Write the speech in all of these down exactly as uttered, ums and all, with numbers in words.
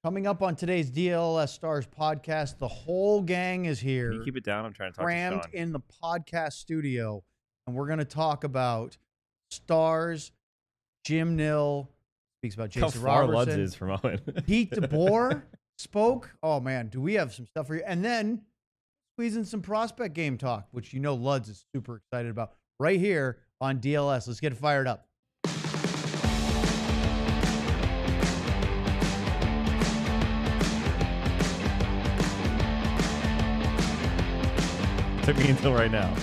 Coming up on today's D L S Stars podcast, the whole gang is here. Can you keep it down? I'm trying to talk crammed to Sean. in the podcast studio, and we're going to talk about Stars. Jim Nill speaks about Jason How far Robertson. Luds is from Owen. Pete DeBoer spoke. Oh, man, do we have some stuff for you? And then squeeze in some prospect game talk, which you know Luds is super excited about, right here on D L S. Let's get it fired up. Took me until right now.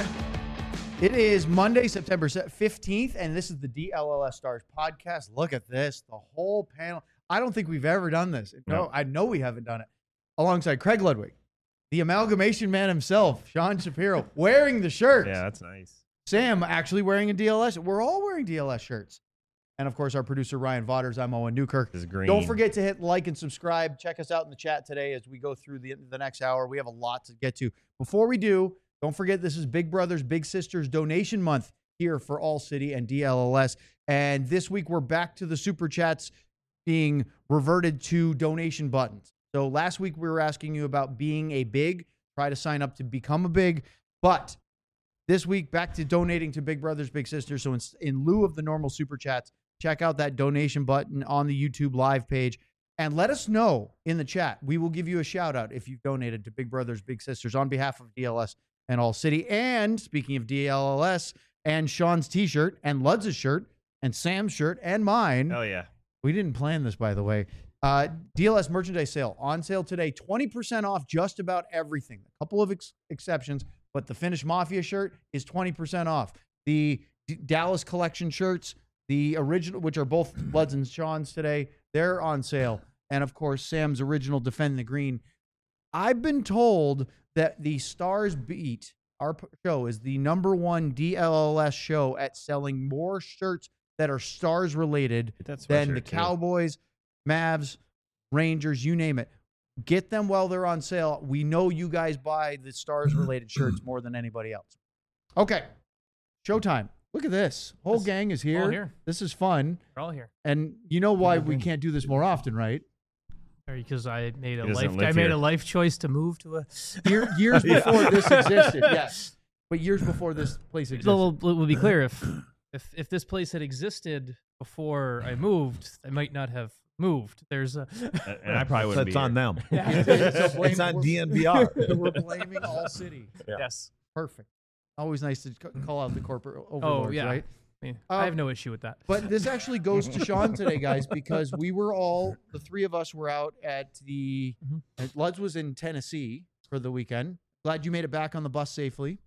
It is Monday, September fifteenth, and this is the D L L S Stars podcast. Look at this, the whole panel. I don't think we've ever done this. No, No. I know we haven't done it. Alongside Craig Ludwig, the amalgamation man himself, Sean Shapiro, wearing the shirt. Yeah, that's nice. Sam actually wearing a D L S. We're all wearing D L S shirts. And, of course, our producer, Ryan Vaughters. I'm Owen Newkirk. This is green. Don't forget to hit like and subscribe. Check us out in the chat today as we go through the, the next hour. We have a lot to get to. Before we do, don't forget this is Big Brothers Big Sisters donation month here for All City and D L L S. And this week we're back to the Super Chats being reverted to donation buttons. So last week we were asking you about being a big. Try to sign up to become a big. But this week back to donating to Big Brothers Big Sisters. So in, in lieu of the normal Super Chats, check out that donation button on the YouTube live page. And let us know in the chat. We will give you a shout out if you've donated to Big Brothers Big Sisters on behalf of D L S and All City. And speaking of D L L S and Sean's t-shirt and Luds' shirt and Sam's shirt and mine. Oh, yeah. We didn't plan this, by the way. Uh, D L S merchandise sale on sale today. twenty percent off just about everything. A couple of ex- exceptions, but the Finnish Mafia shirt is twenty percent off. The D- Dallas collection shirts, the original, which are both Luds and Sean's today, they're on sale. And, of course, Sam's original Defend the Green. I've been told that the Stars Beat, our p- show, is the number one D L L S show at selling more shirts that are Stars related That's than the Cowboys, Mavs, Rangers, you name it. Get them while they're on sale. We know you guys buy the Stars related shirts more than anybody else. Okay. Showtime. Look at this. Whole This- gang is all here. here. This is fun. We're all here. And you know why we can't do this more often, right? Because I made a He doesn't life live I made here. a life choice to move to a Year, years before this existed, yes. But years before this place existed. So we'll, we'll be clear if if if this place had existed before I moved, I might not have moved. There's a And I probably wouldn't That's be on here. them. So blame- It's on we're- D N V R. We're blaming All City. yes. Perfect. Always nice to c- call out the corporate overlords, Oh yeah. right? I, mean, Um, I have no issue with that. But this actually goes to Sean today, guys, because we were all, the three of us were out at the, Mhm. at Luds was in Tennessee for the weekend. Glad you made it back on the bus safely.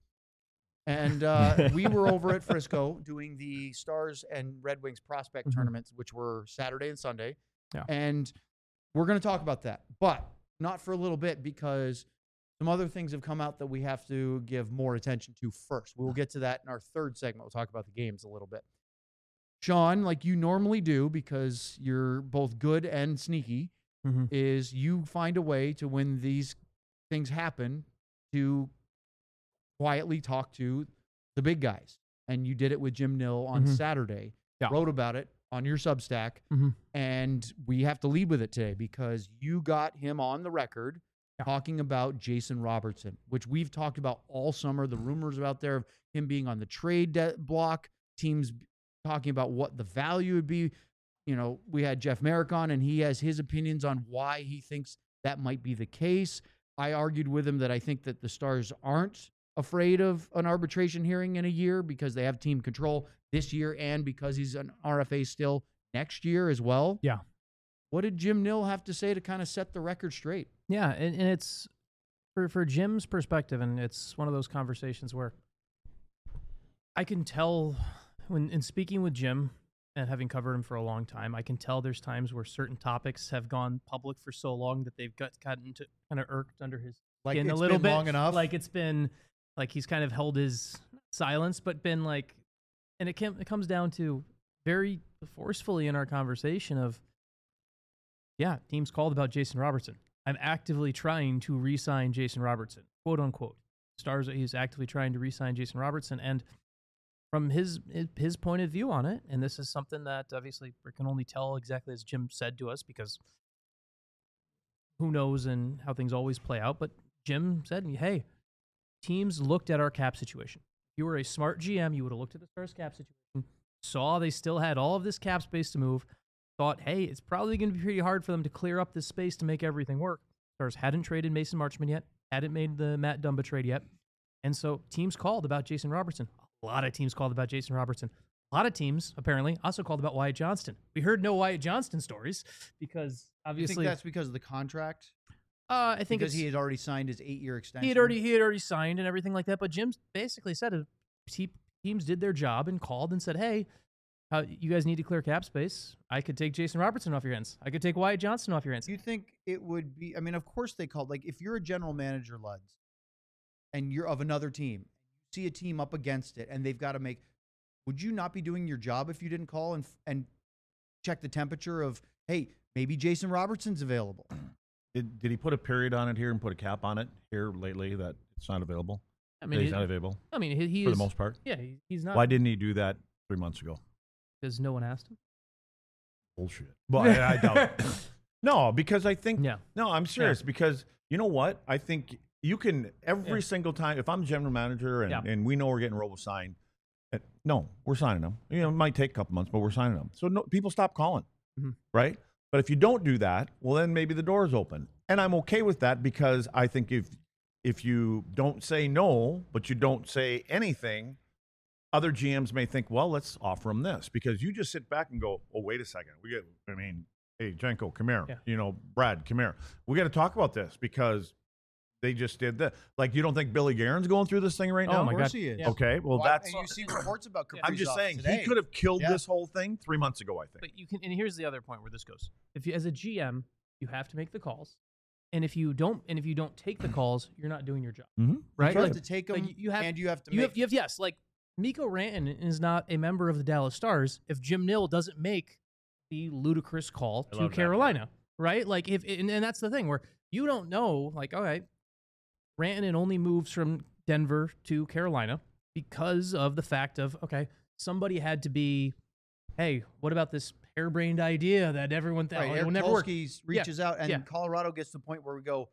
And uh, we were over at Frisco doing the Stars and Red Wings prospect Mhm. tournaments, which were Saturday and Sunday. Yeah. And we're going to talk about that, but not for a little bit because some other things have come out that we have to give more attention to first. We'll get to that in our third segment. We'll talk about the games a little bit. Sean, like you normally do, because you're both good and sneaky, Mhm. is you find a way to, when these things happen, to quietly talk to the big guys. And you did it with Jim Nill on Mhm. Saturday. Yeah. Wrote about it on your Substack. Mhm. And we have to lead with it today because you got him on the record Yeah. talking about Jason Robertson, which we've talked about all summer. The rumors out there of him being on the trade de- block, teams talking about what the value would be. You know, we had Jeff Merrick on, and he has his opinions on why he thinks that might be the case. I argued with him that I think that the Stars aren't afraid of an arbitration hearing in a year because they have team control this year and because he's an R F A still next year as well. Yeah. What did Jim Nill have to say to kind of set the record straight? Yeah, and, and it's for for Jim's perspective, and it's one of those conversations where I can tell when in speaking with Jim and having covered him for a long time, I can tell there's times where certain topics have gone public for so long that they've got gotten to kind of irked under his Like skin it's a little been bit, long enough? Like it's been like he's kind of held his silence, but been like, and it can, it comes down to very forcefully in our conversation of, yeah, teams called about Jason Robertson. I'm actively trying to re-sign Jason Robertson, quote unquote. Stars, he's actively trying to re-sign Jason Robertson, and from his his point of view on it, and this is something that obviously we can only tell exactly as Jim said to us because who knows and how things always play out. But Jim said, hey, teams looked at our cap situation. If you were a smart G M, you would have looked at the Stars cap situation, saw they still had all of this cap space to move, thought, hey, it's probably going to be pretty hard for them to clear up this space to make everything work. Stars hadn't traded Mason Marchman yet, hadn't made the Matt Dumba trade yet. And so teams called about Jason Robertson. A lot of teams called about Jason Robertson. A lot of teams, apparently, also called about Wyatt Johnston. We heard no Wyatt Johnston stories because obviously... You think that's because of the contract? Uh, I think because it's, he had already signed his eight-year extension? He had already he had already signed and everything like that. But Jim basically said uh, te- teams did their job and called and said, hey, uh, you guys need to clear cap space. I could take Jason Robertson off your hands. I could take Wyatt Johnston off your hands. Do you think it would be... I mean, of course they called. Like, if you're a general manager, Luds, and you're of another team, see a team up against it, and they've got to make... Would you not be doing your job if you didn't call and and check the temperature of, hey, maybe Jason Robertson's available? Did did he put a period on it here and put a cap on it here lately that it's not available? I mean, that he's he, not available. I mean, he, he for is, the most part. Yeah, he, he's not. Why didn't he do that three months ago? Because no one asked him. Bullshit. Well, I, I doubt it. No, because I think. Yeah. No, I'm serious. Yeah. Because you know what? I think you can every Yeah. single time. If I'm general manager and, Yeah. and we know we're getting Robo signed, uh, no, we're signing them. You know, it might take a couple months, but we're signing them. So no, people stop calling, Mm-hmm. right? But if you don't do that, well, then maybe the door is open, and I'm okay with that because I think if if you don't say no, but you don't say anything, other G Ms may think, well, let's offer them this, because you just sit back and go, oh, wait a second, we get. I mean, hey, Jenko, come here. Yeah. You know, Brad, come here. We got to talk about this because they just did that. Like, you don't think Billy Guerin's going through this thing right Oh now? my Of course God. he is. Yeah. Okay, well, Why- that's. and you see reports about Kaprizov I'm just saying today. he could have killed Yeah. this whole thing three months ago. I think. But you can, and here's the other point where this goes. If you, as a G M, you have to make the calls, and if you don't, and if you don't take the calls, you're not doing your job, Mm-hmm. right? You Like, have to take them, like, you have- and you have to you make... have, you have, yes, like Mikko Rantanen is not a member of the Dallas Stars if Jim Nill doesn't make the ludicrous call I to love that Carolina, right? Like if, and, and that's the thing where you don't know, like, all right, Rantanen only moves from Denver to Carolina because of the fact of, okay, somebody had to be, hey, what about this harebrained idea that everyone thought Right, oh, it Eric will never work? Tolsky reaches out, and yeah. Colorado gets to the point where we go,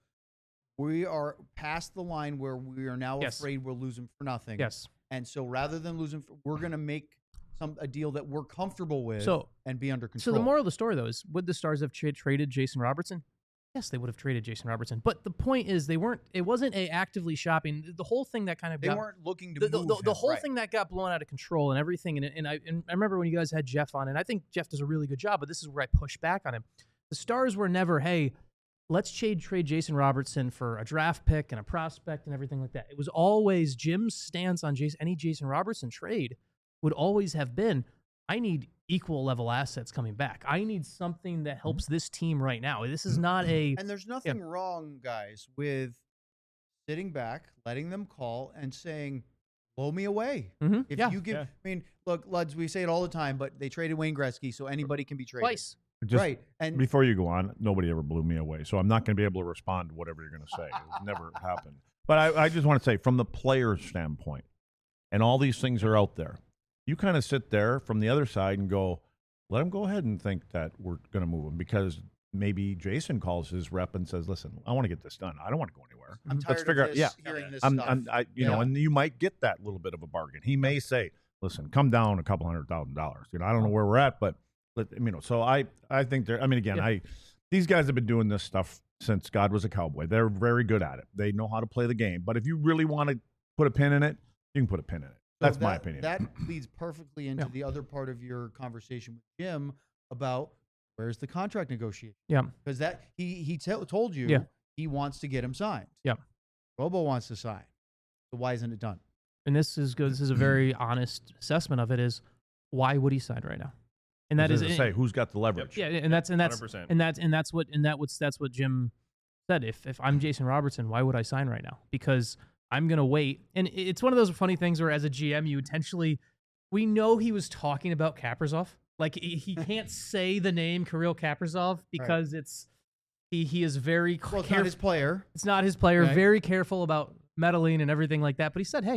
we are past the line where we are now Yes. afraid we'll lose him for nothing. Yes. And so rather than lose him, for, we're going to make some a deal that we're comfortable with So- and be under So control. the moral of the story, though, is would the Stars have tra- traded Jason Robertson? Yes, they would have traded Jason Robertson. But the point is, they weren't. It wasn't a actively shopping. The whole thing that kind of they got, weren't looking to the, the, move the, him, the whole right. thing that got blown out of control and everything. And, and I and I remember when you guys had Jeff on, and I think Jeff does a really good job. But this is where I push back on him. The Stars were never, hey, let's trade trade Jason Robertson for a draft pick and a prospect and everything like that. It was always Jim's stance on Jason, any Jason Robertson trade would always have been, I need equal level assets coming back. I need something that helps this team right now. This is not a And there's nothing wrong, guys, with sitting back, letting them call, and saying, blow me away. Mhm, If yeah, you give, yeah. I mean, look, Luds, we say it all the time, but they traded Wayne Gretzky, so anybody can be traded. twice. Just right. And before you go on, nobody ever blew me away, so I'm not going to be able to respond to whatever you're going to say. It never happened. But I, I just want to say, from the player's standpoint, and all these things are out there, you kind of sit there from the other side and go, let them go ahead and think that we're going to move them, because maybe Jason calls his rep and says, listen, I want to get this done. I don't want to go anywhere. I'm Let's tired figure of out- this, yeah. hearing this I'm, stuff. I'm, I, you know, Yeah. and you might get that little bit of a bargain. He may say, listen, come down a couple hundred thousand dollars. You know, I don't know where we're at, but let, you know, so I, I think they're, I mean, again, Yeah. I, these guys have been doing this stuff since God was a cowboy. They're very good at it. They know how to play the game. But if you really want to put a pin in it, you can put a pin in it. So That's my that- opinion. That leads perfectly into Yeah. the other part of your conversation with Jim about where's the contract negotiation. Yeah. Because that he he t- told you Yeah. he wants to get him signed. Yeah. Robo wants to sign. So why isn't it done? And this is good. This is a very honest assessment of it. Is why would he sign right now? And that is Does it say who's got the leverage. yeah, and that's and that's one hundred percent. and that's and that's what and that what's that's what Jim said. If if I'm Jason Robertson, why would I sign right now? Because I'm gonna wait. And it- it's one of those funny things where, as a G M, you intentionally, we know he was talking about Kaprizov. Like he, he can't say the name Kirill Kaprizov because it's he he is very Well, it's not careful. his player. It's not his player. Right. Very careful about meddling and everything like that. But he said, hey,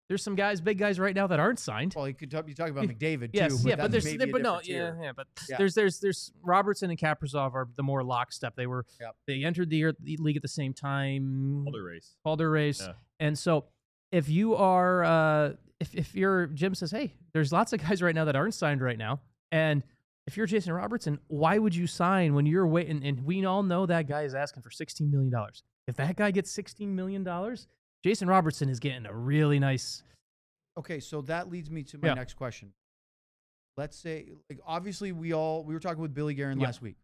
there's some guys, big guys right now that aren't signed. Well, you could talk, you talk about McDavid Yes, too. yeah, but that's there's, maybe there, a but no, different yeah, tier. yeah, but Yeah. there's, there's, there's Robertson and Kaprizov are the more lockstep. They were, Yep. they entered the, year, the league at the same time. Calder race. Calder race, Yeah. and so if you are, uh, if if your Jim says, hey, there's lots of guys right now that aren't signed right now, and if you're Jason Robertson, why would you sign when you're waiting? And we all know that guy is asking for sixteen million dollars. If that guy gets sixteen million dollars, Jason Robertson is getting a really nice. Okay, so that leads me to my Yeah. next question. Let's say, like, obviously, we all we were talking with Billy Guerin Yeah. last week.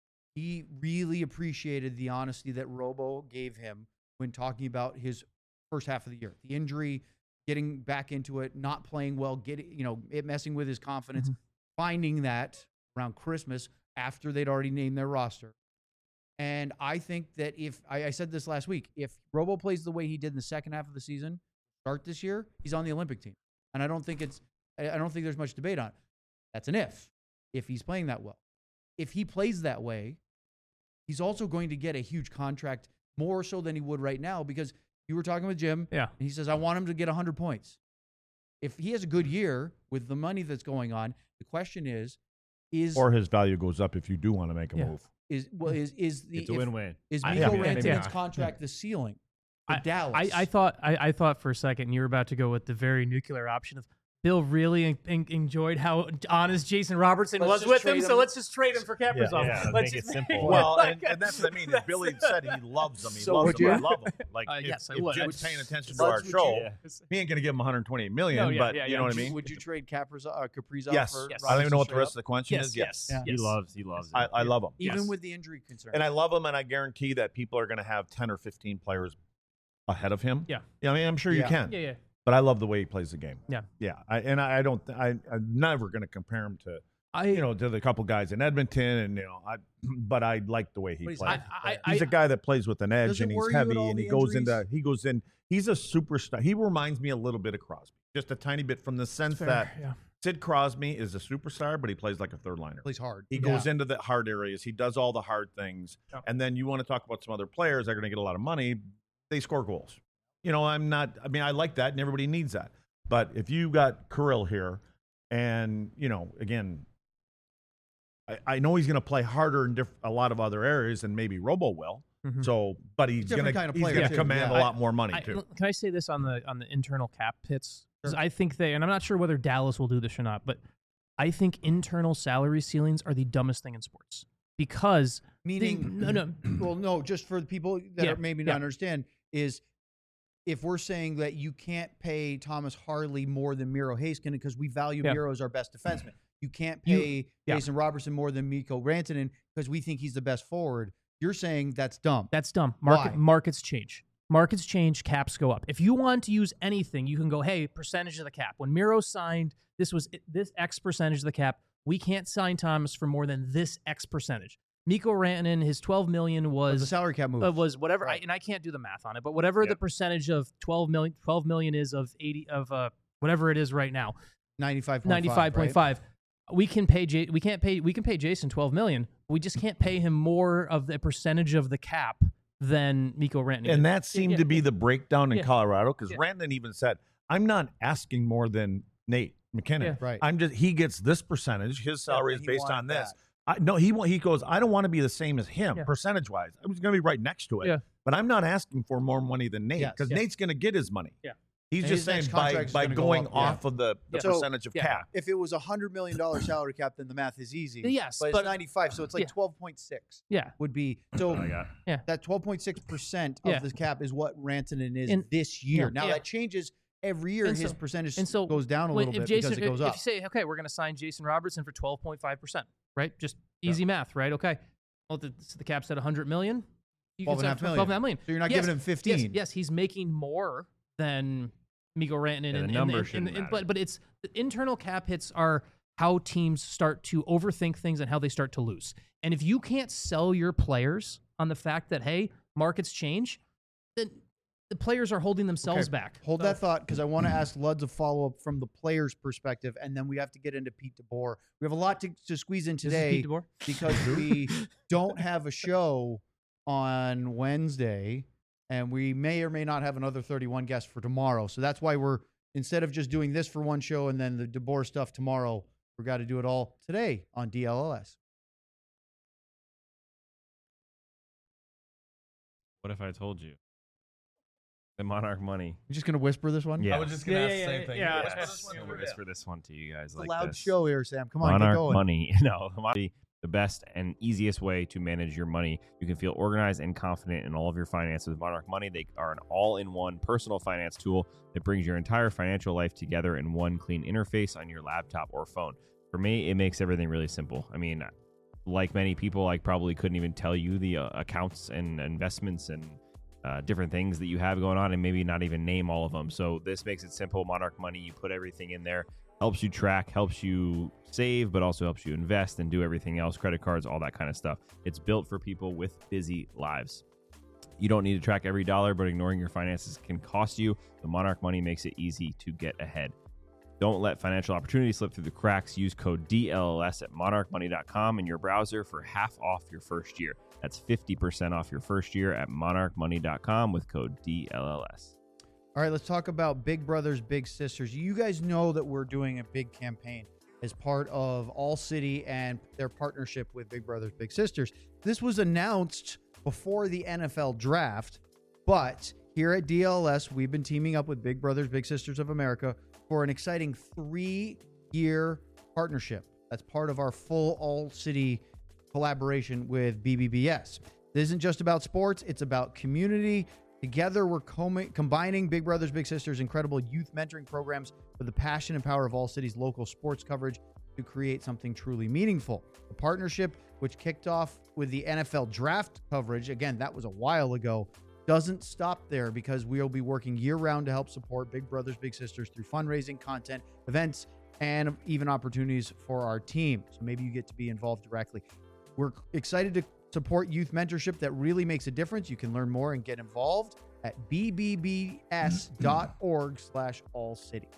He really appreciated the honesty that Robo gave him when talking about his first half of the year, the injury, getting back into it, not playing well, getting you know it messing with his confidence, Mhm. finding that around Christmas after they'd already named their roster. And I think that if I, I said this last week, if Robo plays the way he did in the second half of the season, start this year, he's on the Olympic team. And I don't think it's I I don't think there's much debate on it. That's an if, if he's playing that well. If he plays that way, he's also going to get a huge contract, more so than he would right now, because you were talking with Jim, Yeah. and he says, I want him to get one hundred points. If he has a good year with the money that's going on, the question is, is Or his value goes up if you do want to make a Yeah. move. is well is is the It's a if- win-win. is I- Miko yeah, maybe Rantanen's not. contract the ceiling for I, Dallas? I, I thought I, I thought for a second you were about to go with the very nuclear option of Bill really en- en- enjoyed how honest Jason Robertson Let's was just with him, trade so him. let's just trade him for Kaprizov. Yeah, yeah, let's make it just simple. Well, Like, and, and that's what I mean. Is Billy said he loves them. He So loves would them. you? I love him. Like, Uh, if, yes, I if would. Jim's paying attention to Let's- our would you- show, Yeah. he ain't going to give him one hundred twenty million. No, yeah, but yeah, you yeah. know what would I you, mean? would you trade Kaprizov, uh, Kaprizov Yes. for Yes. I don't even know what the Robertson rest of straight the question Yes, is. yes. Yeah. He Yes. loves. He loves. I, it. I love him. up? Even Yes. with the injury concern. And I love him, and I guarantee that people are going to have ten or fifteen players ahead of him. Yeah. Yeah, I mean, I'm sure you Yeah. can. Yeah, yeah. But I love the way he plays the game. Yeah. Yeah. I, and I, I don't, I, I'm never going to compare him to, I you know, to the couple guys in Edmonton. And, you know, I, but I like the way he But he's plays. I, I, He's I, a guy that plays with an edge Does it and he's worry you at heavy all, and the he goes injuries? into, he goes in, he's a superstar. He reminds me a little bit of Crosby, just a tiny bit from the sense fair, that yeah. Sid Crosby is a superstar, but he plays like a third liner. plays hard. He Yeah. goes into the hard areas. He does all the hard things. Yep. And then you want to talk about some other players that are going to get a lot of money. They score goals. You know, I'm not, I mean, I like that and everybody needs that. But if you got Kirill here and, you know, again, I, I know he's going to play harder in diff- a lot of other areas than maybe Robo will. Mhm. So, but he's Different going kind of to he's player, going too, to command yeah. a lot more money I- too. Can I say this on the on the internal cap hits? 'Cause Sure. I think they, and I'm not sure whether Dallas will do this or not, but I think internal salary ceilings are the dumbest thing in sports because Meaning, no, no. well, no, just for the people that Yeah, are maybe yeah. not understand is if we're saying that you can't pay Thomas Harley more than Miro Haskin because we value Yeah. Miro as our best defenseman. You can't You- pay yeah. Jason Robertson more than Mikko Rantanen because we think he's the best forward. You're saying that's dumb. That's dumb. Market, Why? markets change. Markets change. Caps go up. If you want to use anything, you can go, hey, percentage of the cap. When Miro signed, this was this X percentage of the cap. We can't sign Thomas for more than this X percentage. Mikko Rantanen, his twelve million was was a salary cap move. uh, was whatever, I, Right. and I can't do the math on it, but whatever the Yep. percentage of twelve million, twelve million is of eighty of uh whatever it is right now, ninety-five point five. ninety-five point five. We can pay J- we can't pay we can pay Jason twelve million. We just can't pay him more of the percentage of the cap than Mikko Rantanen. And that seemed yeah, to be yeah. the breakdown in Yeah. Colorado because Yeah. Rantanen even said, I'm not asking more than Nate McKinnon. Yeah. Right. I'm just, he gets this percentage. His salary and is he based wanted on this. that. I, no, he wa- he goes, I don't want to be the same as him Yeah. percentage wise. I was going to be right next to it. Yeah. But I'm not asking for more money than Nate Yes. because Yeah. Nate's going to get his money. Yeah. He's And just his saying next by, contract is by gonna go going up, yeah. off of the, the Yeah. So- percentage of yeah. cap. If it was a hundred million dollar salary cap, then the math is easy. Yes, but, but- it's ninety-five, so it's like Yeah. twelve point six yeah. would be. So I got. that twelve point six percent Yeah. of the cap is what Rantanen is And- this year. yeah. Now Yeah. that changes every year. And His so- percentage and so goes down a When- little if bit Jason, because it goes if up. you say, okay, we're going to sign Jason Robertson for twelve point five percent, right? Just easy math, right? Okay. Well, the, so the cap's at one hundred million. You twelve and a can half say million. twelve and a half million. So you're not Yes, giving him Yes, fifteen. yes, he's making more than Mikko Rantanen. Yeah, the and, number and, and, shouldn't and- matter. but but it's the internal cap hits are how teams start to overthink things and how they start to lose. And if you can't sell your players on the fact that hey, markets change, then the players are holding themselves Okay, back. Hold So- that thought because I want to ask Luds a follow up from the player's perspective, and then we have to get into Pete DeBoer. We have a lot to, to squeeze in This is today Pete DeBoer. because we don't have a show on Wednesday, and we may or may not have another thirty-one guests for tomorrow. So that's why we're instead of just doing this for one show and then the DeBoer stuff tomorrow, we've got to do it all today on D L L S. What if I told you? The Monarch Money. You're just going to whisper this one? Yeah. I was just gonna Yeah, ask yeah, the same yeah, thing. yeah. Whisper Yeah. this one I'm over gonna here. whisper this one to you guys It's a like loud this. show here, Sam. Come on, get Monarch going. Money. No, Monarch, the best and easiest way to manage your money. You can feel organized and confident in all of your finances with Monarch Money. They are an all-in-one personal finance tool that brings your entire financial life together in one clean interface on your laptop or phone. For me, it makes everything really simple. I mean, like many people, I probably couldn't even tell you the uh, accounts and investments and Uh, different things that you have going on and maybe not even name all of them. So this makes it simple. Monarch Money, you put everything in there, helps you track, helps you save, but also helps you invest and do everything else, credit cards, all that kind of stuff. It's built for people with busy lives. You don't need to track every dollar, but ignoring your finances can cost you. The Monarch Money makes it easy to get ahead. Don't let financial opportunity slip through the cracks. Use code D L L S at monarch money dot com in your browser for half off your first year. That's fifty percent off your first year at monarch money dot com with code D L L S. All right, let's talk about Big Brothers Big Sisters. You guys know that we're doing a big campaign as part of All City and their partnership with Big Brothers Big Sisters. This was announced before the N F L draft, but here at D L L S, we've been teaming up with Big Brothers Big Sisters of America for an exciting three-year partnership. That's part of our full All City collaboration with B B B S. This isn't just about sports, it's about community. Together, we're com- combining Big Brothers Big Sisters' incredible youth mentoring programs with the passion and power of All City's local sports coverage to create something truly meaningful. The partnership, which kicked off with the N F L draft coverage, again, that was a while ago, doesn't stop there because we'll be working year-round to help support Big Brothers Big Sisters through fundraising, content, events, and even opportunities for our team. So maybe you get to be involved directly. We're excited to support youth mentorship that really makes a difference. You can learn more and get involved at b b b s dot org slash all city.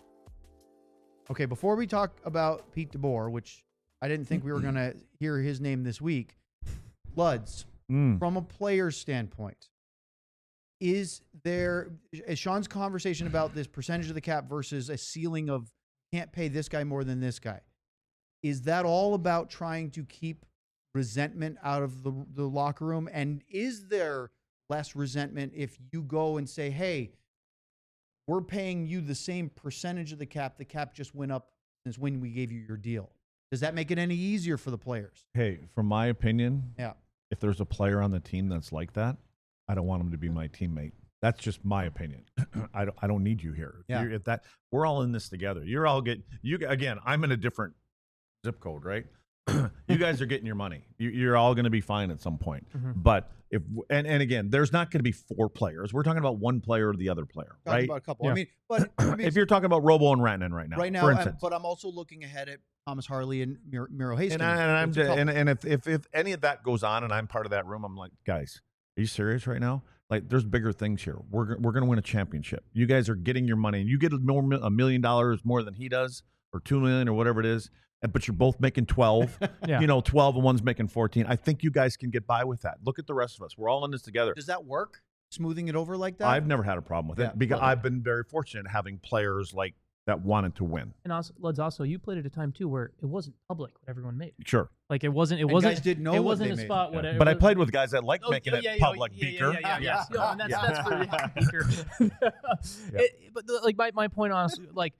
Okay, before we talk about Pete DeBoer, which I didn't think we were going to hear his name this week, Luds, Mm. from a player's standpoint, is there, as Sean's conversation about this percentage of the cap versus a ceiling of can't pay this guy more than this guy, is that all about trying to keep resentment out of the, the locker room? And is there less resentment if you go and say, hey, we're paying you the same percentage of the cap, the cap just went up since when we gave you your deal? Does that make it any easier for the players? Hey, from my opinion, Yeah. if there's a player on the team that's like that, I don't want him to be my teammate. That's just my opinion. I don't. I don't need you here. If Yeah. you're- If that we're all in this together. You're all get you again. I'm in a different zip code, right? You guys are getting your money. You, you're all going to be fine at some point. Mhm. But if and and again, there's not going to be four players. We're talking about one player or the other player, Talking right? about a couple. Yeah. I mean, but I mean, If you're talking about Robo and Rantanen right now, right now, for I'm- instance, but I'm also looking ahead at Thomas Harley and Miro, Miro Hastings. and, I, and I'm It's a couple. and, and if, if if any of that goes on and I'm part of that room, I'm like, guys, are you serious right now? Like, there's bigger things here. We're we're going to win a championship. You guys are getting your money, and you get a, more, a million dollars more than he does, or two million, or whatever it is. and- But you're both making twelve. Yeah. You know, twelve and one's making fourteen. I think you guys can get by with that. Look at the rest of us. We're all in this together. Does that work? Smoothing it over like that? I've never had a problem with Yeah. it because Well- I've been very fortunate having players like that wanted to win. And also, Luds, also, you played at a time too where it wasn't public what everyone made. Sure. Like it wasn't. It And wasn't. guys didn't know it what wasn't they a made. spot. What But I played with guys that like Oh, making yeah, it yeah, yeah, public, yeah, Beaker. Yeah, yeah, yeah. Yeah. No, and that's, Yeah. that's for yeah, Beaker. It- but the, like my, my point, honestly, like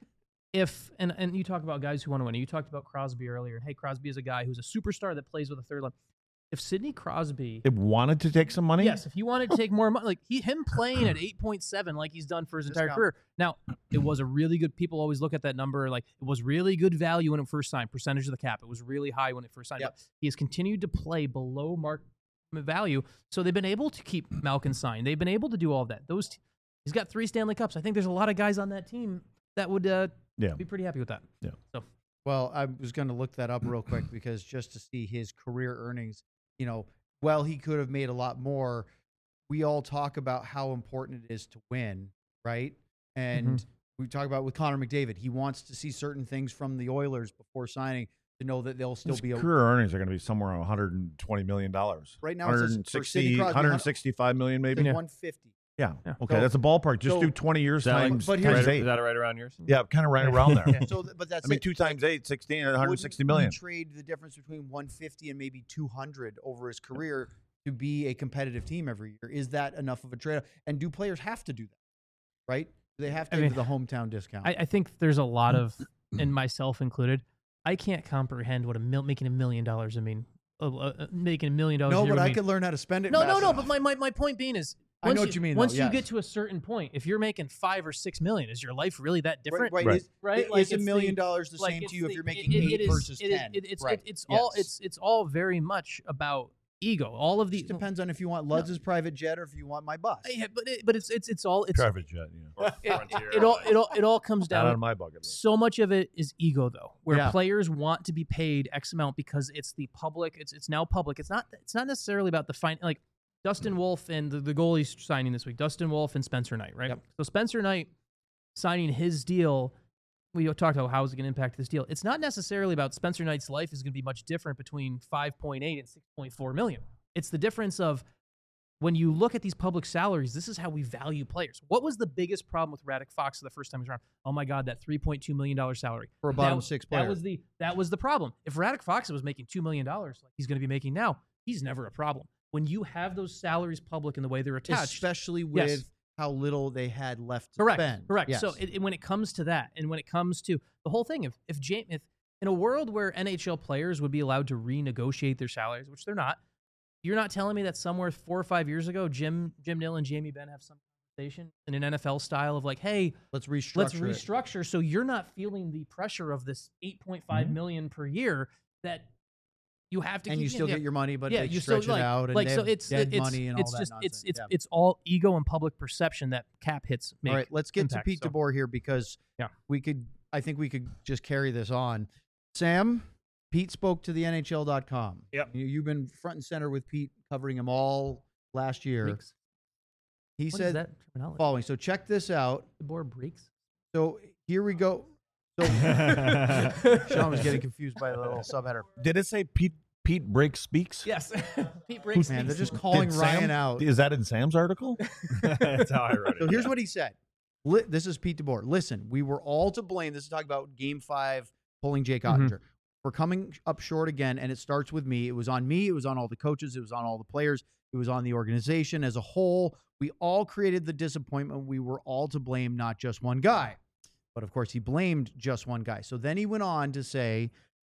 if and and you talk about guys who want to win. You talked about Crosby earlier. And hey, Crosby is a guy who's a superstar that plays with a third line. If Sidney Crosby, It wanted to take some money. yes, if he wanted to take more money, like he him playing at eight point seven, like he's done for his entire Discount. career. Now, it was a really good. People always look at that number like it was really good value when it first signed. Percentage of the cap, it was really high when it first signed. Yep. But he has continued to play below market value, so they've been able to keep Malkin signed. They've been able to do all of that. Those t- he's got three Stanley Cups. I think there's a lot of guys on that team that would uh, Yeah. be pretty happy with that. Yeah. So Well, I was going to look that up real quick because just to see his career earnings, you know, well, he could have made a lot more. We all talk about how important it is to win, right? And we talk about with Connor McDavid, he wants to see certain things from the Oilers before signing to know that they'll still His be a career earnings are going to be somewhere around one hundred twenty million dollars. right now. It says for Sidney Crosby, one hundred sixty-five million maybe. Yeah. one fifty. Yeah. Yeah. Okay, So- that's a ballpark. Just so- do twenty years Is that, like, times, but here's- times right, eight. is that right around yours? Yeah, kind of right Yeah. around there. So, th- but that's I mean, it. two times eight, sixteen, one hundred sixty Wouldn't million. he trade the difference between one fifty and maybe two hundred over his career to be a competitive team every year? Is that enough of a trade? And do players have to do that? Right? Do they have to I give mean, the hometown discount? I, I think there's a lot of, and myself included, I can't comprehend what a mil- making a million dollars. I mean, uh, uh, making a million dollars. no, a year but would I mean. could learn how to spend it. No, no, fast no. enough. But my, my, my point being is, I once know you, what you mean, though, Once you yes. get to a certain point, if you're making five or six million, is your life really that different? Right, Right. Is, Right? Is Like, a it's million the- dollars the Like, same it's to you if the- you're it- making it- eight it is- versus it is- ten? it- it's right. it- it's all Yes. it's it's all very much about ego. All of the It depends on if you want Ludz's private jet or if you want my bus. Yeah, but it, but it's it's it's all it's Private jet, yeah. Or it, Frontier, it all like- it all it all comes Not on down. my bucket list. So much of it is ego, though, where Yeah. players want to be paid X amount because it's the public. It's it's now public. It's not it's not necessarily about the fine. Like Dustin Wolf and the, the goalies signing this week. Dustin Wolf and Spencer Knight, right? Yep. So Spencer Knight signing his deal. We talked about how is it going to impact this deal. It's not necessarily about Spencer Knight's life is going to be much different between five point eight and six point four million. It's the difference of when you look at these public salaries, this is how we value players. What was the biggest problem with Radek Fox the first time he was around? Oh my God, that three point two million dollars salary. For a bottom that, six player. That was the that was the problem. If Radek Fox was making two million dollars like he's going to be making now, he's never a problem. When you have those salaries public and the way they're attached, Especially with Yes. how little they had left to correct, spend. correct. Yes. So it, it- when it comes to that, and when it comes to the whole thing, if if James, if in a world where N H L players would be allowed to renegotiate their salaries, which they're not, you're not telling me that somewhere four or five years ago, Jim Jim Nill and Jamie Benn have some conversation in an N F L style of like, hey, let's restructure. let's it. restructure so you're not feeling the pressure of this eight point five Mm-hmm. million per year that you have to And keep you still yeah, get your money, but yeah, they you stretch still it like, out and like they so have it's dead it's money and it's all just that it's nonsense. it's Yeah. it's all ego and public perception that cap hits make. All right, let's get impact, to Pete so. DeBoer here because Yeah. we could. I think we could just carry this on. Sam, Pete spoke to the N H L dot com. Yep. You, you've been front and center with Pete, covering him all last year. Breaks. He What is said that terminology? following. So check this out. The board breaks. So here we go. So Sean was getting confused by the little subheader. Did it say Pete Pete Breaks speaks? Yes, Pete breaks. Man, they're speaks. just calling Did Ryan Sam- out. Is that in Sam's article? That's how I wrote it. So here's yeah. what he said. Li- This is Pete DeBoer. Listen, we were all to blame. This is talking about Game Five pulling Jake Mhm. Ottinger. We're coming up short again, and it starts with me. It was on me. It was on all the coaches. It was on all the players. It was on the organization as a whole. We all created the disappointment. We were all to blame, not just one guy. But of course, he blamed just one guy. So then he went on to say,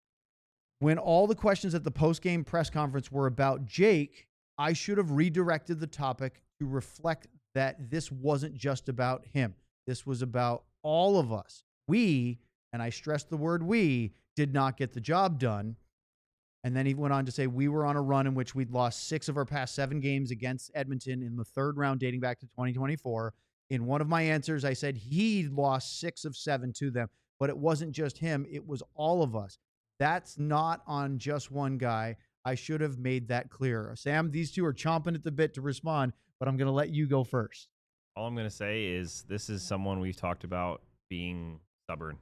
when all the questions at the post-game press conference were about Jake, I should have redirected the topic to reflect that this wasn't just about him. This was about all of us. We, and I stress the word we, did not get the job done. And then he went on to say, we were on a run in which we'd lost six of our past seven games against Edmonton in the third round dating back to twenty twenty-four. In one of my answers, I said he lost six of seven to them, but it wasn't just him. It was all of us. That's not on just one guy. I should have made that clear. Sam, these two are chomping at the bit to respond, but I'm going to let you go first. All I'm going to say is this is someone we've talked about being stubborn,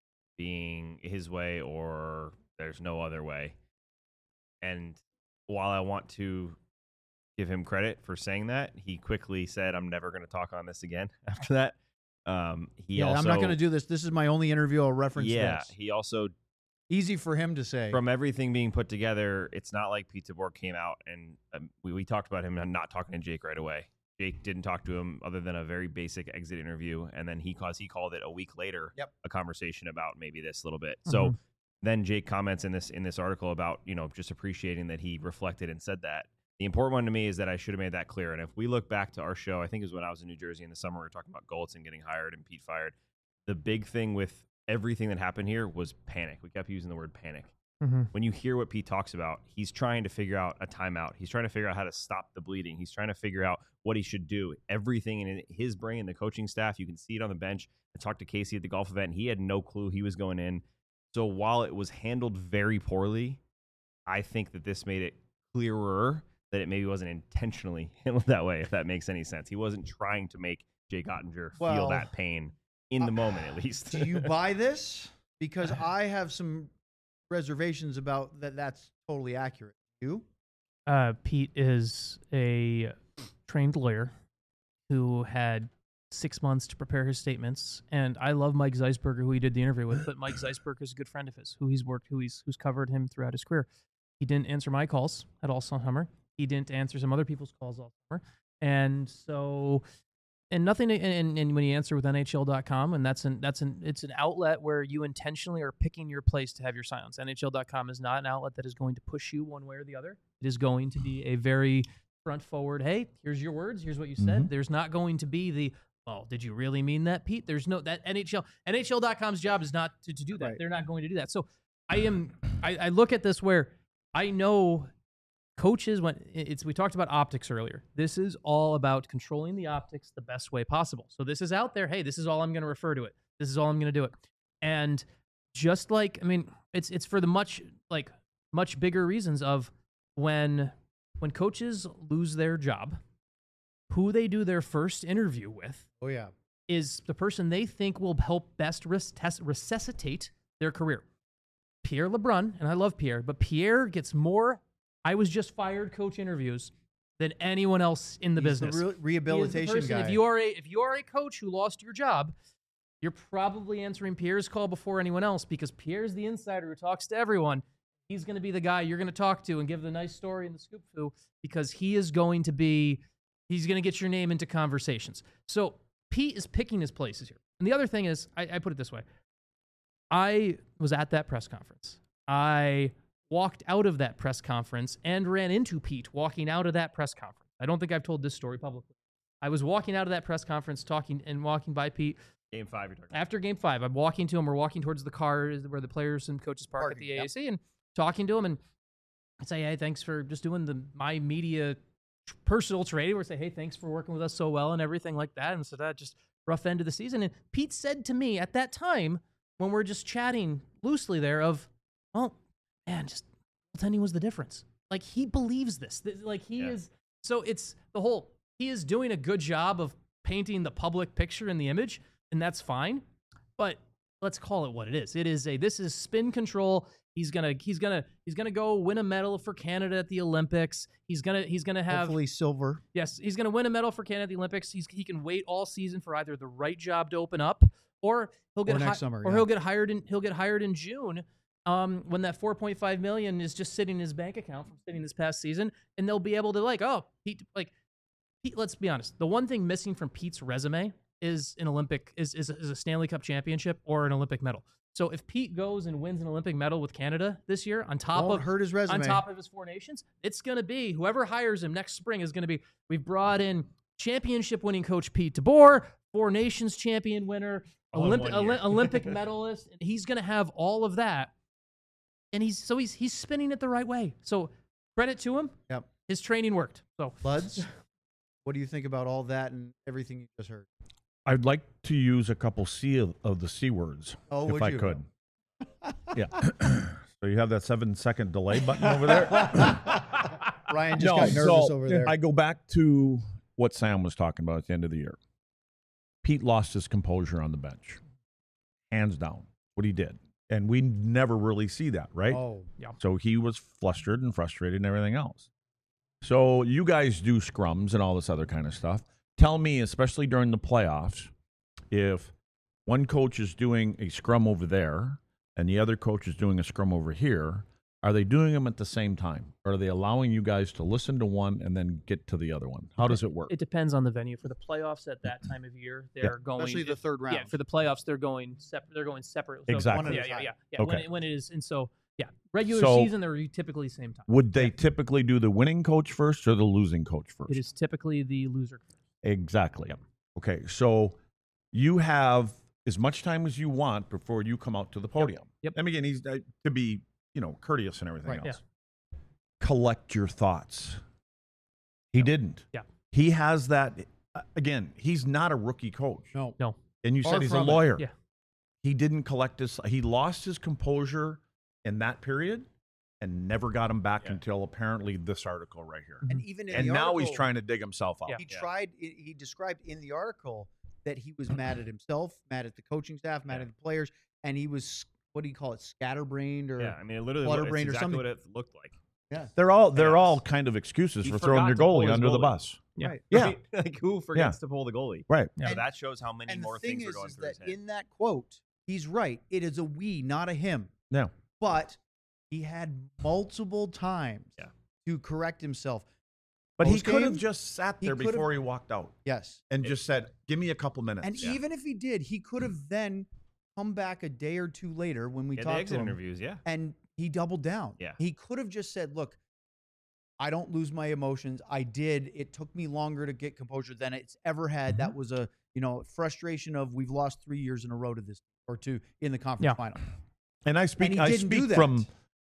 being his way or there's no other way. And while I want to give him credit for saying that, he quickly said, I'm never going to talk on this again after that. Um, he yeah, also, I'm not going to do this. This is my only interview. I'll reference Yeah, this. he also, Easy for him to say. from everything being put together, it's not like Pete DeBoer came out and um, we, we talked about him not talking to Jake right away. Jake didn't talk to him other than a very basic exit interview. And then he, cause he called it a week later, Yep. a conversation about maybe this little bit. Mhm. So then Jake comments in this, in this article about, you know, just appreciating that he reflected and said that. The important one to me is that I should have made that clear. And if we look back to our show, I think it was when I was in New Jersey in the summer, we were talking about Golitzin getting hired and Pete fired. The big thing with everything that happened here was panic. We kept using the word panic. Mm-hmm. When you hear what Pete talks about, he's trying to figure out a timeout. He's trying to figure out how to stop the bleeding. He's trying to figure out what he should do. Everything in his brain, the coaching staff, you can see it on the bench. I talked to Casey at the golf event. He had no clue he was going in. So while it was handled very poorly, I think that this made it clearer that it maybe wasn't intentionally handled that way, if that makes any sense. He wasn't trying to make Jake Ottinger Well, feel that pain in the uh, moment, at least. Do you buy this? Because I have some reservations about that. That's totally accurate. You? Uh, Pete is a trained lawyer. who had six months to prepare his statements. And I love Mike Zeisberger, who he did the interview with, but Mike Zeisberger is a good friend of his, who he's worked, who he's who's covered him throughout his career. He didn't answer my calls at all summer. He didn't answer some other people's calls all summer. And so, and nothing, and, and when you answer with N H L dot com, and that's an, that's an, it's an outlet where you intentionally are picking your place to have your silence. N H L dot com is not an outlet that is going to push you one way or the other. It is going to be a very front forward, hey, here's your words, here's what you said. Mm-hmm. There's not going to be the, well, did you really mean that, Pete? There's no, that N H L, N H L dot com's job is not to, to do that. Right. They're not going to do that. So I am, I, I look at this where I know coaches, when it's, we talked about optics earlier. This is all about controlling the optics the best way possible. So this is out there. Hey, this is all I'm going to refer to it. This is all I'm going to do it. And just like, I mean, it's, it's for the much, like much bigger reasons of when, when coaches lose their job, who they do their first interview with Oh, yeah. is the person they think will help best res- test, resuscitate their career. Pierre LeBrun, and I love Pierre, but Pierre gets more I was just fired coach interviews than anyone else in the He's business. The re- rehabilitation He is the person, guy. If you are a if you are a coach who lost your job, you're probably answering Pierre's call before anyone else because Pierre's the insider who talks to everyone. He's going to be the guy you're going to talk to and give the nice story and the scoop to because he is going to be he's going to get your name into conversations. So Pete is picking his places here. And the other thing is, I, I put it this way. I was at that press conference. I walked out of that press conference and ran into Pete walking out of that press conference. I don't think I've told this story publicly. I was walking out of that press conference talking and walking by Pete. Game five, you're talking After game five, I'm walking to him. We're walking towards the car where the players and coaches park Parking, at the yep. A A C and talking to him. And I say, hey, thanks for just doing the my media personal trade. Where I say, hey, thanks for working with us so well and everything like that. And so that just rough end of the season. And Pete said to me at that time, when we're just chatting loosely there of, well, man, just goaltending was the difference. Like, he believes this. Like, he Yeah. is, so it's the whole, he is doing a good job of painting the public picture and the image, and that's fine. But let's call it what it is. It is a, this is spin control. He's gonna, he's gonna, he's gonna go win a medal for Canada at the Olympics. He's gonna, he's gonna have, Hopefully silver. yes, he's gonna win a medal for Canada at the Olympics. He's, he can wait all season for either the right job to open up, or he'll get Or next hi- summer, or yeah. he'll get hired in, he'll get hired in June. Um, when that four point five million is just sitting in his bank account from sitting this past season, and they'll be able to like, oh, Pete, like, Pete, let's be honest. The one thing missing from Pete's resume is an Olympic, is is, is a Stanley Cup championship or an Olympic medal. So if Pete goes and wins an Olympic medal with Canada this year, on top Won't of hurt his resume. on top of his four nations, it's going to be whoever hires him next spring is going to be. We've brought in championship winning coach Pete DeBoer, four nations champion winner, All in Olymp- one year. Oli- Olympic medalist. He's going to have all of that, and he's so he's he's spinning it the right way. So credit to him. Yep. His training worked. So Buds, what do you think about all that and everything you just heard? I'd like to use a couple C of, of the C words, Oh, if would I you? could. Yeah. So you have that seven second delay button over there. Ryan just got nervous so over there. I go back to what Sam was talking about at the end of the year. Pete lost his composure on the bench, hands down. What he did, and we never really see that, right? Oh, So he was flustered and frustrated and everything else. So you guys do scrums and all this other kind of stuff. Tell me, especially during the playoffs, if one coach is doing a scrum over there and the other coach is doing a scrum over here, are they doing them at the same time? Or are they allowing you guys to listen to one and then get to the other one? How does it work? it depends on the venue. For the playoffs at that time of year, they're going especially the third round. Yeah, for the playoffs, they're going separate. They're going separate. So Exactly. One at Yeah, a yeah, time. yeah, yeah. When, Okay. it, when it is, and so yeah, regular So- season they're typically same time. Would they typically do the winning coach first or the losing coach first? It is typically the loser. Exactly. Okay, so you have as much time as you want before you come out to the podium. Yep. And again, he's uh, to be, you know, courteous and everything Right. else. Collect your thoughts. He didn't. Yeah. He has that. uh, Again, he's not a rookie coach. no. No. And you Far said he's a from it. lawyer. Yeah. He didn't collect his. He lost his composure in that period, and never got him back Yeah. until apparently this article right here. And even in And the now he's article, trying to dig himself out. Yeah. He tried. He described in the article that he was mad at himself, mad at the coaching staff, mad Yeah. at the players, and he was, what do you call it, scatterbrained or Yeah, I mean, it literally Flutter looked, it's brain or exactly something. what it looked like. yeah. They're all they're Yes. all kind of excuses He for throwing forgot your to pull goalie his under the goalie. bus. Yeah. Right. Yeah. Right? Like who forgets to pull the goalie? Right. Yeah. So And- that shows how many And more the thing things is, are going is through his that head. in that quote, he's right. It is a we, not a him. Yeah. But he had multiple times Yeah. to correct himself. But he Post could have game, just sat he there could've- before he walked out Yes. and just said, "Give me a couple minutes." And Yeah. even if he did, he could have then come back a day or two later when we Yeah, the talked to exit him, interviews, yeah. and he doubled down. Yeah. He could have just said, "Look, I don't lose my emotions. I did. It took me longer to get composure than it's ever had. Mm-hmm. That was a, you know, frustration of we've lost three years in a row to this or two in the conference Yeah. final." And I speak, And he I didn't do speak that. from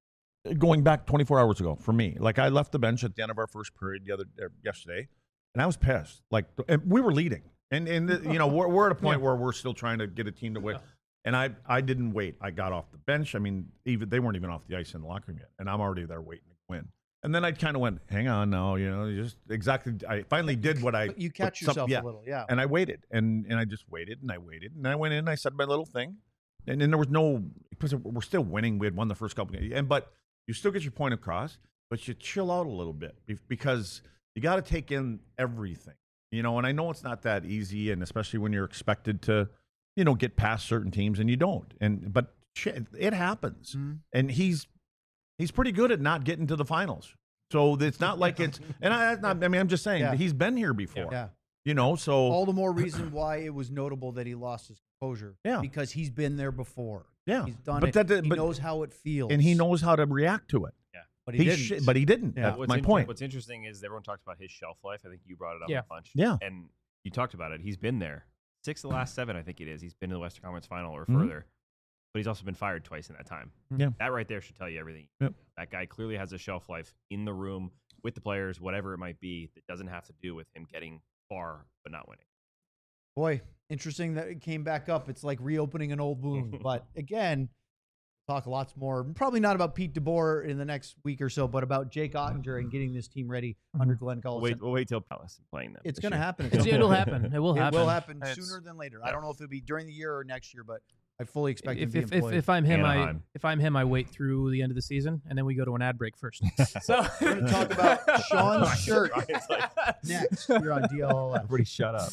going back twenty-four hours ago for me. Like I left the bench at the end of our first period the other er, yesterday, and I was pissed. Like and we were leading, and and the, you know we're we're at a point Yeah. where we're still trying to get a team to win. And I I didn't wait. I got off the bench. I mean, even they weren't even off the ice in the locker room yet, and I'm already there waiting to win. And then I kind of went, hang on, now, you know, just exactly. I finally did what I. But you catch what some- yourself yeah. a little, yeah. And I waited, and and I just waited, and I waited, and I went in, and I said my little thing, and then there was no because we're still winning. We had won the first couple games, and but you still get your point across, but you chill out a little bit be- because you got to take in everything, you know. And I know it's not that easy, and especially when you're expected to, you know, get past certain teams, and you don't. And but shit, it happens, Mhm. and he's he's pretty good at not getting to the finals. So it's not like it's, and I, I mean, I'm just saying Yeah. he's been here before, Yeah. you know. So All the more reason why it was notable that he lost his composure. Yeah. Because he's been there before. yeah, He's done but it. that, he but, knows how it feels. and he knows how to react to it. But he, He didn't. sh- but he didn't. Yeah. That's What's my in- point. What's interesting is everyone talks about his shelf life. I think you brought it up Yeah. a bunch. Yeah. And you talked about it. He's been there. Six of the last seven, I think it is. He's been to the Western Conference Final or Mhm. further. But he's also been fired twice in that time. Yeah. That right there should tell you everything. Yep. That guy clearly has a shelf life in the room with the players, whatever it might be, that doesn't have to do with him getting far but not winning. Boy, interesting that it came back up. It's like reopening an old wound. But again, talk lots more. Probably not about Pete DeBoer in the next week or so, but about Jake Ottinger and getting this team ready under Glenn We'll Gullis. wait, we'll wait till Palace is playing them. It's this going to year. happen. at It's, some it'll point. happen. It will It happen. will happen It's- sooner than later. I yeah. don't know if it'll be during the year or next year, but I fully expect him If, to be if, if, employed. if I'm him, I Anaheim. if I'm him, I wait through the end of the season and then we go to an ad break first. So We're going to talk about Sean's shirt Ryan's like, next. You're on D L L F. Everybody shut up.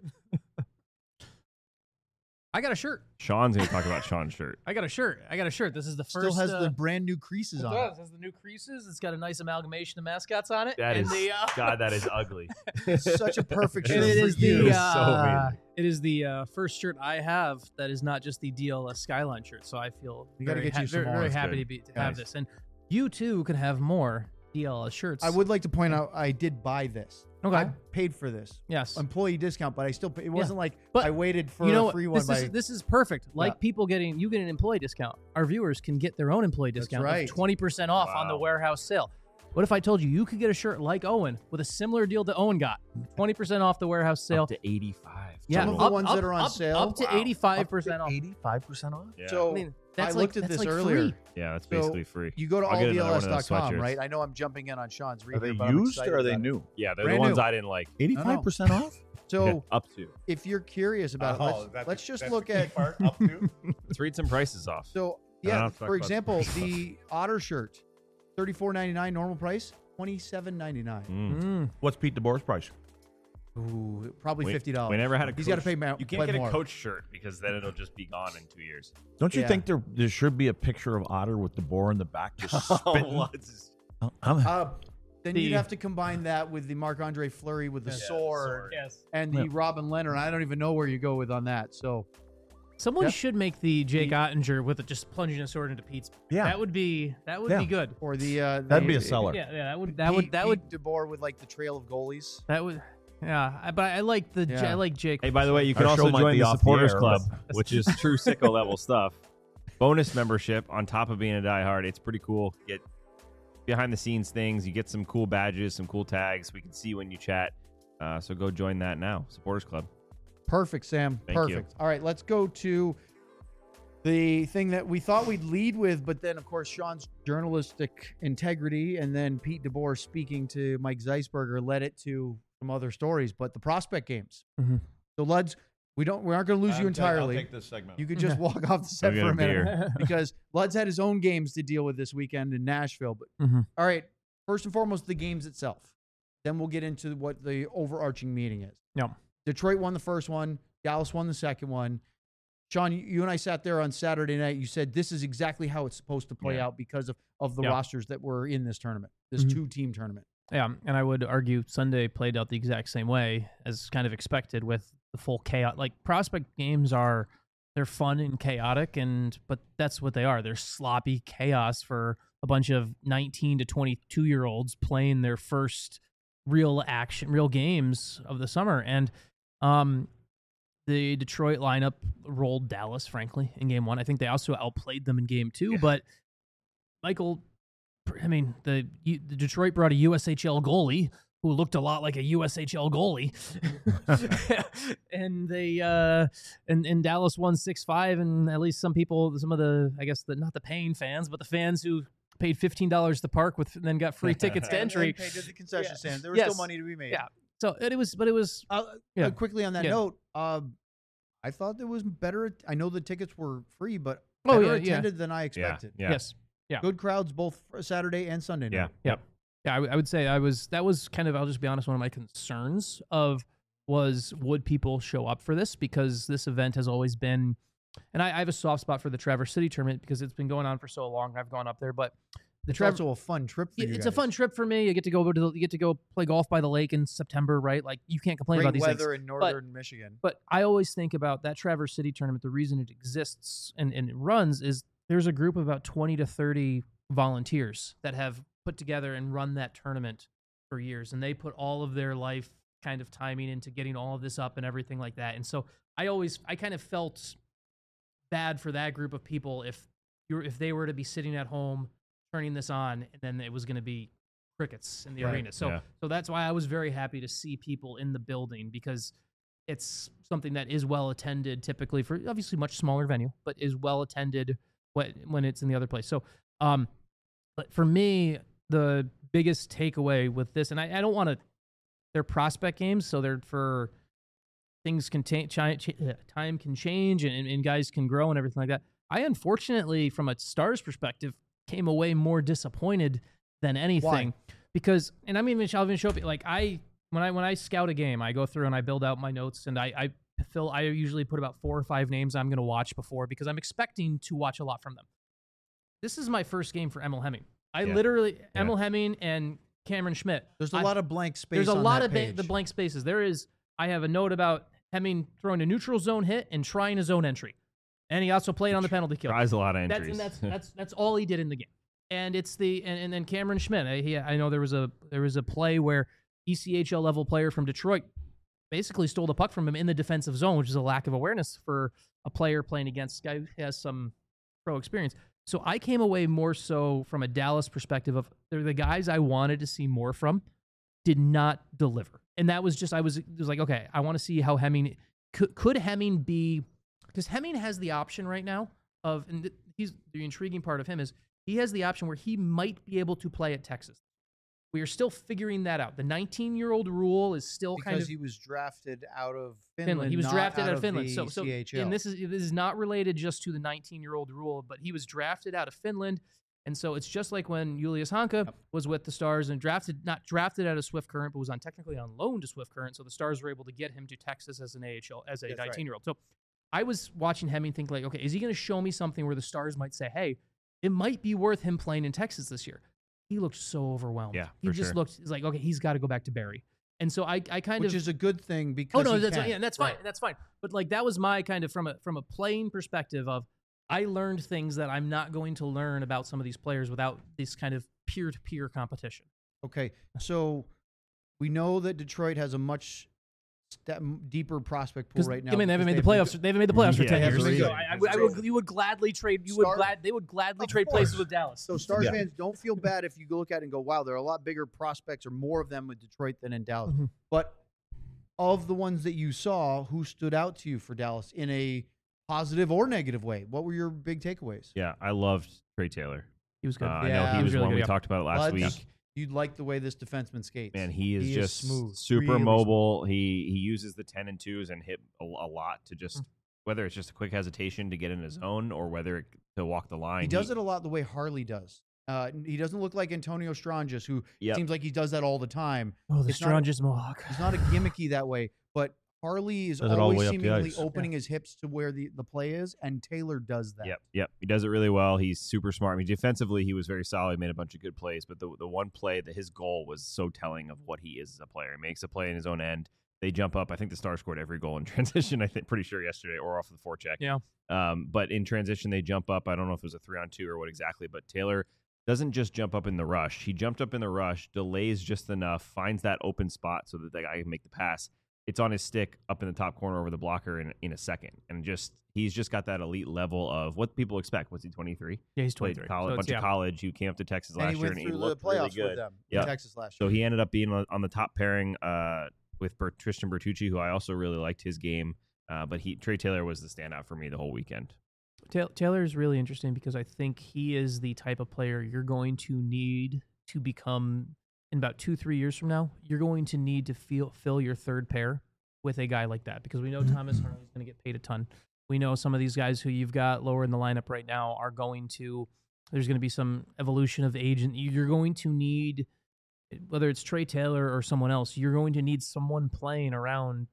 I got a shirt. Sean's going to talk about Sean's shirt. I got a shirt. I got a shirt. This is the Still first. has uh, the brand new creases it on does. It has the new creases. It's got a nice amalgamation of mascots on it. That and is, the, uh, God, that is ugly. it. Such a perfect shirt And it for is you. the It's so uh, amazing. it is the uh, first shirt I have that is not just the D L S Skyline shirt. So I feel We gotta very, get you some very, more. very That's happy good. to be to have Nice. this, and you too can have more D L S shirts. I would like to point out I did buy this. Okay. I paid for this. Yes. Employee discount, but I still pay. It wasn't like But I waited for you know a what? free one this by is this is perfect. Like Yeah. people getting you get an employee discount. Our viewers can get their own employee That's discount right. of twenty percent off on the Wow. warehouse sale. What if I told you you could get a shirt like Owen with a similar deal that Owen got? twenty percent off the warehouse sale. Up to eighty-five. Yeah, Some of the up- ones up- that are on up- sale? up to Wow. eighty-five percent off. eighty-five percent off. Yeah. So I mean, that's I like, looked at that's this like earlier. free. yeah, that's So basically free. You go to I'll all get D another L one S of those dot com, sweatshirts. right? I know I'm jumping in on Sean's read Are here, they but I'm used excited or are they about it. new? Yeah, they're Brand the ones new. I didn't like. eighty-five percent off. So Up to. if you're curious about it, Oh, let's, let's just look at. up to. Let's read some prices off. So I don't yeah, have to talk for about example, the- the Otter shirt, thirty-four ninety-nine normal price, twenty-seven ninety-nine. Mm. Mm. What's Pete DeBoer's price? Ooh, probably We- fifty dollars. We never had a. He's got got to pay. Ma- You play can't get more. a coach shirt because then it'll just be gone in two years. Don't you Yeah. think there there should be a picture of Otter with DeBoer in the back just spitting? Oh, it's- I'm- Uh, then you'd The- have to combine that with the Marc Andre Fleury with the Yeah, sword, sword. Yes. and the Yeah. Robin Leonard. I don't even know where you go with on that. So Someone Yeah. should make the Jake The- Ottinger with it just plunging a sword into Pete's. Yeah. That would be that would Yeah. be good. or the uh, That'd be the- a seller. Yeah, yeah, that would that would Pete- that would Pete DeBoer with like the trail of goalies. that would yeah. I, but I like the Yeah. I like Jake. Hey, by the way, you can Our show also might join be the off the supporters air, club, but- which is true sicko level stuff. Bonus membership on top of being a diehard. It's pretty cool. Get behind the scenes things. You get some cool badges, some cool tags. We can see when you chat. Uh, so go join that now. Supporters club. Perfect, Sam. Thank you. Perfect. All right, let's go to the thing that we thought we'd lead with, but then, of course, Sean's journalistic integrity and then Pete DeBoer speaking to Mike Zeisberger led it to some other stories, but the prospect games. Mhm. So, Luds, we don't, we aren't going to lose you entirely. I'll take this segment. You could just walk off the set Go for get a a minute beer. because Luds had his own games to deal with this weekend in Nashville. But Mhm. all right, first and foremost, the games itself. then we'll get into what the overarching meeting is. No. Detroit won the first one. Dallas won the second one. Sean, you and I sat there on Saturday night. You said this is exactly how it's supposed to play Yeah. out because of, of the Yeah. rosters that were in this tournament, this Mhm. two-team tournament. Yeah, and I would argue Sunday played out the exact same way as kind of expected with the full chaos. Like prospect games are, they're fun and chaotic, and but that's what they are. They're sloppy chaos for a bunch of nineteen to twenty-two year olds playing their first real action, real games of the summer. And um, the Detroit lineup rolled Dallas, frankly, in game one. I think they also outplayed them in game two, Yeah. but Michael, I mean, the, the Detroit brought a U S H L goalie who looked a lot like a U S H L goalie, and they uh, and and Dallas won six five, and at least some people, some of the, I guess the not the paying fans, but the fans who paid fifteen dollars to park with, and then got free tickets to And- entry. and paid at the concession Yeah. stand. There was Yes. still money to be made. Yeah. So it, it was, but it was Uh, Yeah. uh, quickly on that Yeah. note, uh, I thought there was better. I know the tickets were free, but Oh, better yeah, yeah. attended than I Yeah. expected. Yeah. yes. Yeah. Good crowds both for Saturday and Sunday night. Yeah. Yeah. Yeah, I, w- I would say I was. That was kind of. I'll just be honest. One of my concerns of was would people show up for this, because this event has always been, and I, I have a soft spot for the Traverse City tournament because it's been going on for so long. I've gone up there, but the It's Traverse. also a fun trip for you It's a guys. fun trip for me. You get to go to the, you get to go play golf by the lake in September, right? Like you can't complain Great about these things. weather in northern Michigan. But I always think about that Traverse City tournament. The reason it exists and, and it runs is there's a group of about twenty to thirty volunteers that have put together and run that tournament for years. And they put all of their life kind of timing into getting all of this up and everything like that. And so I always, I kind of felt bad for that group of people if you're, if they were to be sitting at home turning this on and then it was going to be crickets in the Right. arena. So, Yeah. so that's why I was very happy to see people in the building, because it's something that is well attended typically for obviously much smaller venue, but is well attended when, when it's in the other place. So, um, but for me, the biggest takeaway with this, and I, I don't want to, they're prospect games, so they're for things can ta- chi- ch- uh, time can change and, and guys can grow and everything like that. I unfortunately, from a Stars perspective, came away more disappointed than anything because, and I'm even, I'll even show you, like I, when I, when I scout a game, I go through and I build out my notes and I, I fill, I usually put about four or five names I'm going to watch before because I'm expecting to watch a lot from them. This is my first game for Emil Hemming. I Yeah. literally, Yeah. Emil Hemming and Cameron Schmidt. There's a I- lot of blank space. There's a on lot that of ba- page. the blank spaces. There is, I have a note about Hemming throwing a neutral zone hit and trying a zone entry. And he also played on the penalty kill. Tries a lot of That's, entries. and that's that's that's all he did in the game. And it's the and, and then Cameron Schmidt. I, he, I know there was a there was a play where E C H L level player from Detroit basically stole the puck from him in the defensive zone, which is a lack of awareness for a player playing against a guy who has some pro experience. So I came away more so from a Dallas perspective of they're the guys I wanted to see more from, did not deliver. And that was just I was it was like, okay, I want to see how Hemming could could Hemming be, because Hemming has the option right now of, and th- he's the intriguing part of him is he has the option where he might be able to play at Texas. We are still figuring that out. The nineteen-year-old rule is still because kind of he was drafted out of Finland. Finland. He was not drafted out of of Finland. the So, so, C H L. and this is this is not related just to the nineteen-year-old rule, but he was drafted out of Finland, and so it's just like when Julius Hanka was with the Stars and drafted, not drafted out of Swift Current, but was on technically on loan to Swift Current. So the Stars were able to get him to Texas as an A H L as a That's right. nineteen-year-old. So I was watching Hemming think like, okay, is he going to show me something where the Stars might say, hey, it might be worth him playing in Texas this year? He looked so overwhelmed. Yeah, he for just sure. looked he's like, okay, he's got to go back to Barrie. And so I, I kind which of is a good thing because Oh no, he that's can. yeah, that's fine. That's fine. But like that was my kind of from a from a playing perspective of I learned things that I'm not going to learn about some of these players without this kind of peer-to-peer competition. Okay, so we know that Detroit has a much step deeper prospect pool Because right now. I mean, they haven't made because the they've playoffs. They haven't made the playoffs for Yeah, ten they years. haven't So been I, I, good. I would, you would gladly trade. You would Star- glad. They would gladly Of trade course. places with Dallas. So Stars Yeah. fans, don't feel bad if you go look at it and go, wow, there are a lot bigger prospects or more of them with Detroit than in Dallas. Mhm. But of the ones that you saw, who stood out to you for Dallas in a positive or negative way? What were your big takeaways? Yeah, I loved Trey Taylor. He was Uh, good. I Yeah, know he he was was really one good, we yeah. talked about last Buds, week. you'd like the way this defenseman skates. Man, he is He is just smooth, super really mobile. He he uses the ten and twos and hit a, a lot to Mm. just whether it's just a quick hesitation to get in his zone or whether it, to walk the line. He does it a lot the way Harley does. Uh, he doesn't look like Antonio Stranges, who Yep. seems like he does that all the time. Oh, the It's not- Stranges Mohawk. He's not a gimmicky that way, but Harley is Does it all the always way up the seemingly ice. opening his hips to where the, the play is, and Taylor does that. Yep, yep. He does it really well. He's super smart. I mean, defensively, he was very solid. Made a bunch of good plays, but the the one play that his goal was so telling of what he is as a player. He makes a play in his own end. They jump up. I think the Stars scored every goal in transition. I think pretty sure yesterday, or off the forecheck. Yeah. Um, but in transition, they jump up. I don't know if it was a three on two or what exactly, but Taylor doesn't just jump up in the rush. He jumped up in the rush, delays just enough, finds that open spot so that the guy can make the pass. It's on his stick up in the top corner over the blocker in in a second, and just he's just got that elite level of what people expect. Was he twenty-three? Yeah, he's Played twenty-three. college, So bunch it's- of yeah. college. He came up to Texas And last he year, went and he through the looked playoffs really good. with them Yep. in Texas last So year. he ended up being on on the top pairing uh, with Bert, Tristan Bertucci, who I also really liked his game. Uh, but he Trey Taylor was the standout for me the whole weekend. Ta- Taylor is really interesting because I think he is the type of player you're going to need to become in about two, three years from now. You're going to need to feel, fill your third pair with a guy like that because we know Thomas Harley's going to get paid a ton. We know some of these guys who you've got lower in the lineup right now are going to, there's going to be some evolution of age, and you're going to need, whether it's Trey Taylor or someone else, you're going to need someone playing around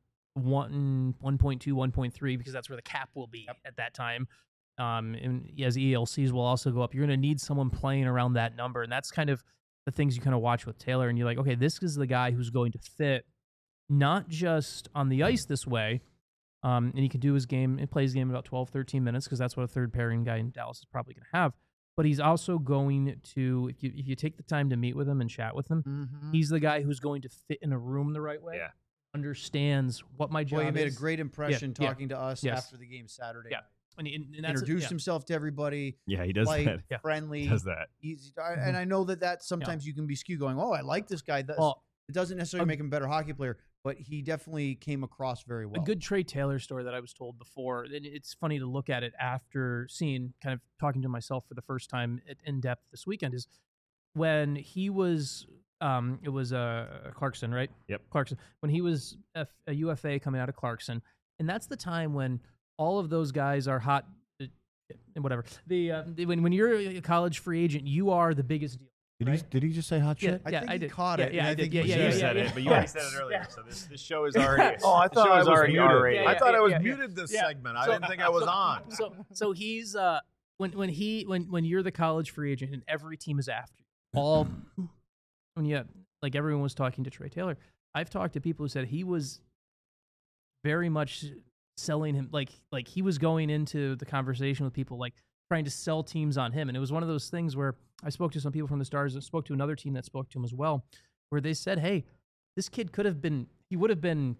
one, one point two, one point three because that's where the cap will be at that time. Um, and as E L Cs will also go up, you're going to need someone playing around that number. And that's kind of the things you kind of watch with Taylor. And you're like, okay, this is the guy who's going to fit not just on the ice this way. Um, and he can do his game and play his game about twelve, thirteen minutes because that's what a third pairing guy in Dallas is probably going to have. But he's also going to, if you, if you take the time to meet with him and chat with him, Mhm. he's the guy who's going to fit in a room the right way. Yeah. Understands what my job Boy, he made is. a great impression yeah. talking to us Yes. after the game Saturday. Yeah. night. And, he- and that's Introduced yeah. himself to everybody. Yeah, he does light, that. Yeah. friendly. Does that? Easy. I- And I know that that sometimes you can be skewed going, oh, I like this guy. That's, Well, it doesn't necessarily a- make him a better hockey player, but he definitely came across very well. A good Trey Taylor story that I was told before, and it's funny to look at it after seeing, kind of talking to myself for the first time at- in depth this weekend, is when he was, um, it was uh, Clarkson, right? Yep. Clarkson. When he was F- a U F A coming out of Clarkson, and that's the time when all of those guys are hot, uh, whatever. The uh, when when you're a college free agent, you are the biggest deal. Did, he, Right? did he just say hot Yeah, shit? I yeah, think I he did. caught Yeah, it. yeah, and I I did. think Yeah, he yeah, You was yeah, said yeah, it, but you yeah. already said it earlier. Yeah. So this, this show is already. Oh, I this thought show I is was already muted. R-rated. I thought Yeah, I was yeah, yeah. muted this Yeah. segment. I So- didn't think I was on. So so he's uh when when he when when you're the college free agent and every team is after you, all when you like everyone was talking to Trey Taylor. I've talked to people who said he was very much selling him like like he was going into the conversation with people like trying to sell teams on him. And it was one of those things where I spoke to some people from the Stars and spoke to another team that spoke to him as well, where they said, hey, this kid could have been, he would have been,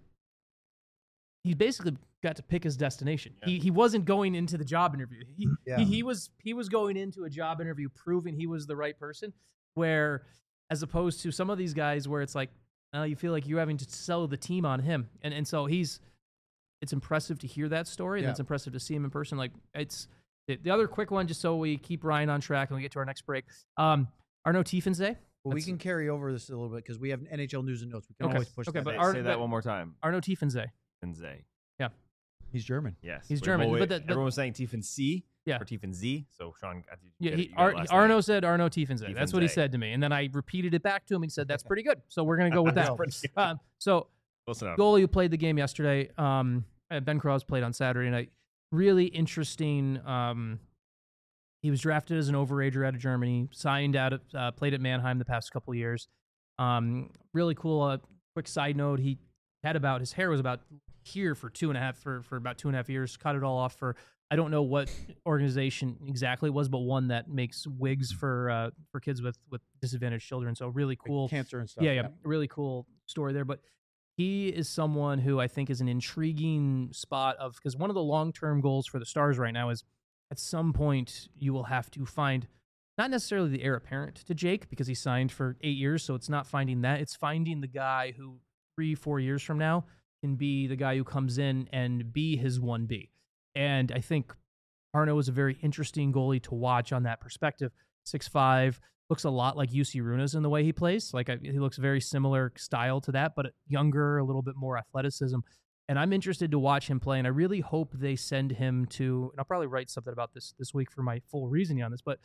he basically got to pick his destination. Yeah. He he wasn't going into the job interview. He, Yeah. he he was he was going into a job interview proving he was the right person. Where as opposed to some of these guys where it's like, uh, you feel like you're having to sell the team on him, and and so he's. It's impressive to hear that story, and Yeah. it's impressive to see him in person. Like it's the, the other quick one, just so we keep Ryan on track and we get to our next break. Um, Arno Tiefense. Well, we That's- can carry over this a little bit because we have N H L news and notes. We can Okay. always push Okay, that. but Say, Ar- say but- that one more time. Arno Tiefense. Tiefenze. He's German. Yes. He's Wait, German, wait, but the- but- everyone was saying C. Yeah. Or Z. So Sean, I think you Yeah, get it, he, you got Ar- it last Arno night. said Arno Tiefense. That's what he Tiefense. said to me, and then I repeated it back to him. He said that's pretty good, so we're gonna go with that. Pretty good. um, so Close enough. goalie who played the game yesterday. Um, uh, Ben Cross played on Saturday night. Really interesting. Um, he was drafted as an overager out of Germany. Signed out of uh, played at Mannheim the past couple of years. Um, really cool. Uh, quick side note: he had about his hair was about here for two and a half for for about two and a half years. Cut it all off for I don't know what organization exactly it was, but one that makes wigs for uh, for kids with with disadvantaged children. So really Like cool. cancer and stuff. Yeah, yeah, really cool story there. But he is someone who I think is an intriguing spot of because one of the long term goals for the Stars right now is at some point you will have to find not necessarily the heir apparent to Jake because he signed for eight years, so it's not finding that. It's finding the guy who three, four years from now can be the guy who comes in and be his one B. And I think Arno is a very interesting goalie to watch on that perspective. six five, looks a lot like U C Runas in the way he plays. Like I, he looks very similar style to that, but younger, a little bit more athleticism. And I'm interested to watch him play. And I really hope they send him to. And I'll probably write something about this this week for my full reasoning on this. But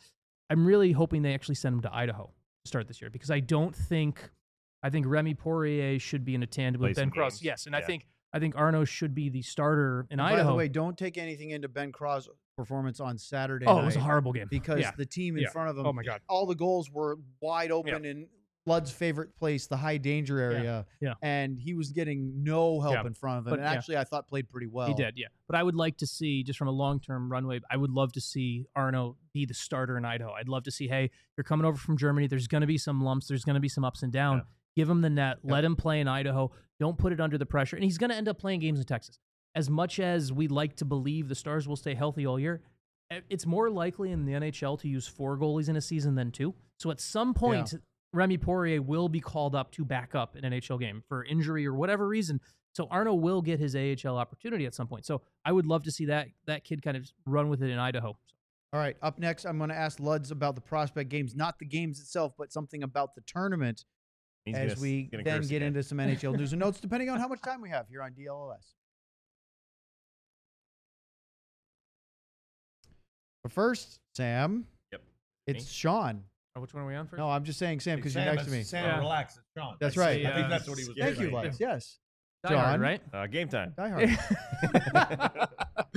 I'm really hoping they actually send him to Idaho to start this year because I don't think I think Remy Poirier should be in a tandem Play with Ben some Cross. games. Yes, and Yeah. I think I think Arno should be the starter in And Idaho. By the way, don't take anything into Ben Cross' performance on Saturday oh, night it was a horrible game because yeah. the team in Yeah. front of him, Oh my god. all the goals were wide open in Ludd's favorite place, the high danger area. Yeah. And he was getting no help Yeah. in front of him. But, and yeah. actually, I thought played pretty well. He did, yeah. But I would like to see, just from a long-term runway, I would love to see Arno be the starter in Idaho. I'd love to see, hey, you're coming over from Germany. There's going to be some lumps. There's going to be some ups and downs. Yeah. Give him the net. Yep. Let him play in Idaho. Don't put it under the pressure. And he's going to end up playing games in Texas. As much as we like to believe the Stars will stay healthy all year, it's more likely in the N H L to use four goalies in a season than two. So at some point, Yeah. Remy Poirier will be called up to back up in an N H L game for injury or whatever reason. So Arno will get his A H L opportunity at some point. So I would love to see that that kid kind of run with it in Idaho. All right. Up next, I'm going to ask Luds about the prospect games, not the games itself, but something about the tournament He's as gonna, we gonna then curse get again. into some N H L news and notes, depending on how much time we have here on D L L S. But first, Sam, Yep. it's Sean. Oh, which one are we on first? No, I'm just saying Sam because you're Sam, next to me. it's- Sam, Yeah. relax. It's Sean. That's I right. see, I think uh, that's what he was Thank you, getting at. Luds. Yes. Die Hard, John. right? Uh, game time. Die Hard.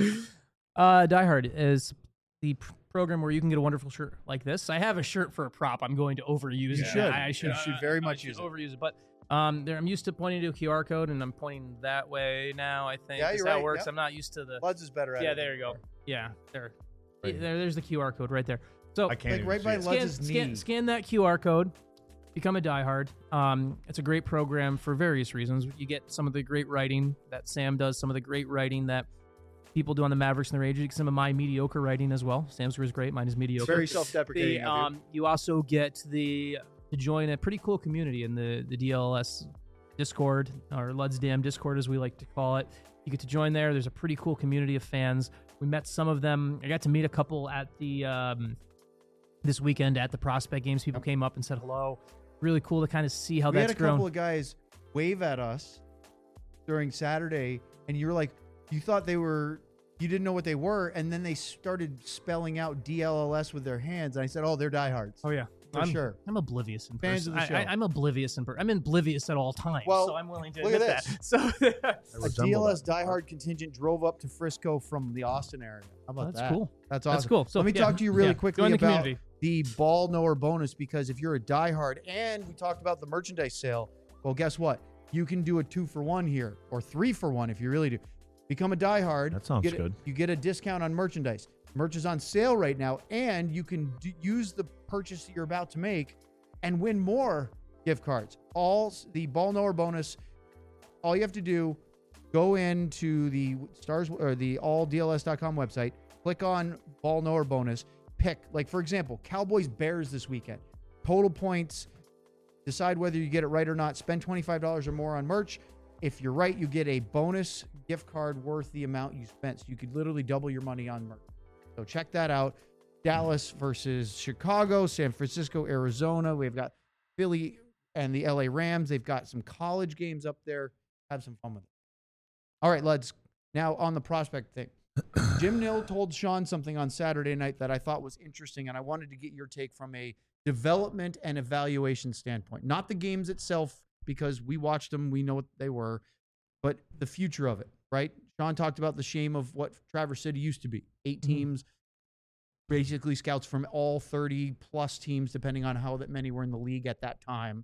uh, Die Hard is the pr- program where you can get a wonderful shirt like this. I have a shirt for a prop. I'm going to overuse You it. should. I, I should, You should very much I should use it. overuse it. But um, there, I'm used to pointing to a Q R code, and I'm pointing that way now. I think Yeah, is you're how right. it works. Yep. I'm not used to the. Luds is better at Yeah, it. there you go. Yeah, there. Right. there. There's the Q R code right there. So I can't Like even right see by it. Luds' scan, knee. scan, scan that Q R code. Become a diehard. Um, it's a great program for various reasons. You get some of the great writing that Sam does, some of the great writing that people do on the Mavericks and the Rangers, some of my mediocre writing as well. Sam's is great, mine is mediocre. Very self-deprecating. The, of you. um, you also get the to join a pretty cool community in the the D L S Discord, or Lud's Dam Discord as we like to call it. You get to join there. There's a pretty cool community of fans. We met some of them. I got to meet a couple at the um, this weekend at the prospect games. People came up and said hello. Really cool to kind of see how we that's had a grown. couple of guys wave at us during Saturday, and you were like, you thought they were, you didn't know what they were, and then they started spelling out D L L S with their hands, and I said, oh, they're diehards. oh yeah, for I'm, sure. I'm oblivious in Fans person. of the show. I, I, I'm oblivious in person. I'm oblivious at all times. Well, so I'm willing to look at admit this. that. So I A resemble D L S that. diehard contingent drove up to Frisco from the Austin area. How about that's that? cool. That's awesome. That's cool. So Let me yeah, talk to you really yeah. quickly Join the about community. the ball knower bonus, because if you're a diehard, and we talked about the merchandise sale, well, guess what? You can do a two for one here, or three for one if you really do. Become a diehard. That sounds you get a- good. you get a discount on merchandise. Merch is on sale right now, and you can d- use the purchase that you're about to make and win more gift cards. All s- the ball knower bonus. All you have to do, go into the stars or the all D L S dot com website, click on ball knower bonus, pick, like for example, Cowboys Bears this weekend. Total points. Decide whether you get it right or not. Spend twenty-five dollars or more on merch. If you're right, you get a bonus gift card worth the amount you spent. So you could literally double your money on merch. So check that out. Dallas versus Chicago, San Francisco, Arizona. We've got Philly and the L A Rams. They've got some college games up there. Have some fun with it. All right, let's now on the prospect thing. Jim Nill told Sean something on Saturday night that I thought was interesting, and I wanted to get your take from a development and evaluation standpoint. Not the games itself, because we watched them, we know what they were, but the future of it, right? Sean talked about the shame of what Traverse City used to be. Eight Mm-hmm. teams, basically scouts from all thirty plus teams, depending on how that many were in the league at that time.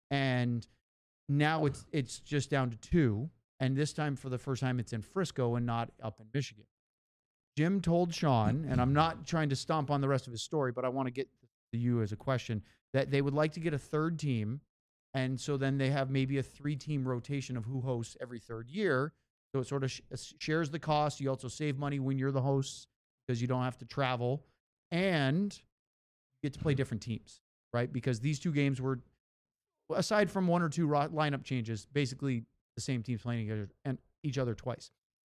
And now it's it's just down to two. And this time, for the first time, it's in Frisco and not up in Michigan. Jim told Sean, and I'm not trying to stomp on the rest of his story, but I want to get to you as a question, that they would like to get a third team. And so then they have maybe a three-team rotation of who hosts every third year. So it sort of sh- shares the cost. You also save money when you're the hosts because you don't have to travel. And you get to play different teams, right? Because these two games were, aside from one or two ro- lineup changes, basically the same teams playing each other, and each other twice.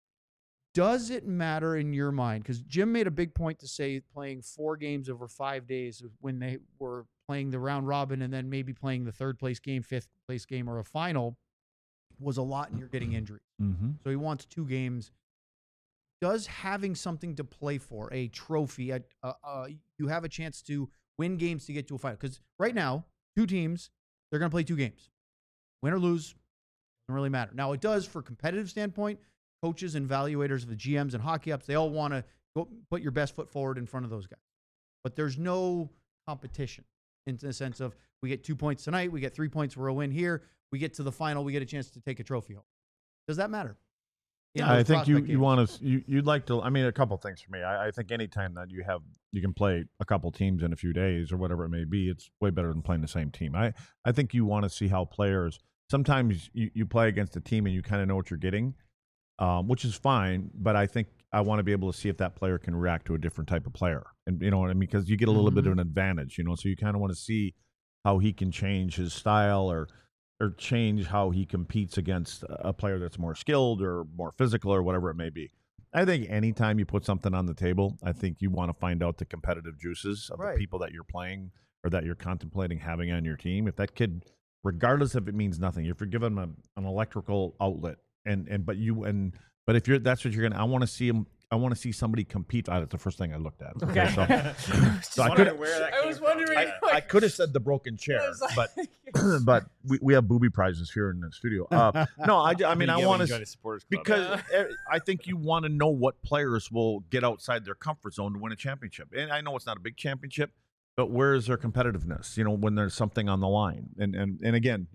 Does it matter in your mind? Because Jim made a big point to say playing four games over five days when they were playing the round robin and then maybe playing the third place game, fifth place game, or a final was a lot, and you're getting injuries. Mm-hmm. So he wants two games. does having something to play for, a trophy, a, uh, uh, you have a chance to win games to get to a final. Because right now, two teams, they're going to play two games. Win or lose, doesn't really matter. Now, it does for competitive standpoint. Coaches and evaluators of the G Ms and hockey ups, they all want to go put your best foot forward in front of those guys. But there's no competition in the sense of we get two points tonight, we get three points for a win here, we get to the final, we get a chance to take a trophy home. Does that matter? In Yeah, I those think you, prospect you games? want to you you'd like to. I mean, a couple things for me. I, I think anytime that you have you can play a couple teams in a few days or whatever it may be, it's way better than playing the same team. I I think you want to see how players. Sometimes you, you play against a team and you kind of know what you're getting, um, which is fine. But I think I want to be able to see if that player can react to a different type of player, and you know what I mean, because you get a little Mm-hmm. bit of an advantage, you know. So you kind of want to see how he can change his style or. or change how he competes against a player that's more skilled or more physical or whatever it may be. I think anytime you put something on the table, I think you want to find out the competitive juices of Right. the people that you're playing or that you're contemplating having on your team. If that kid, regardless if it means nothing, if you're giving him a, an electrical outlet and, and, but you, and, but if you're, that's what you're going to, I want to see him, I want to see somebody compete. Oh, that's the first thing I looked at. Okay. So, Just so I wondering could, where that I came was from. wondering- I, I could have said the broken chair, I was like- but but we, we have booby prizes here in the studio. Uh, no, I, I mean I want to to supporters club. because eh, I think you want to know what players will get outside their comfort zone to win a championship. And I know it's not a big championship, but where is their competitiveness? You know, when there's something on the line. And and and again,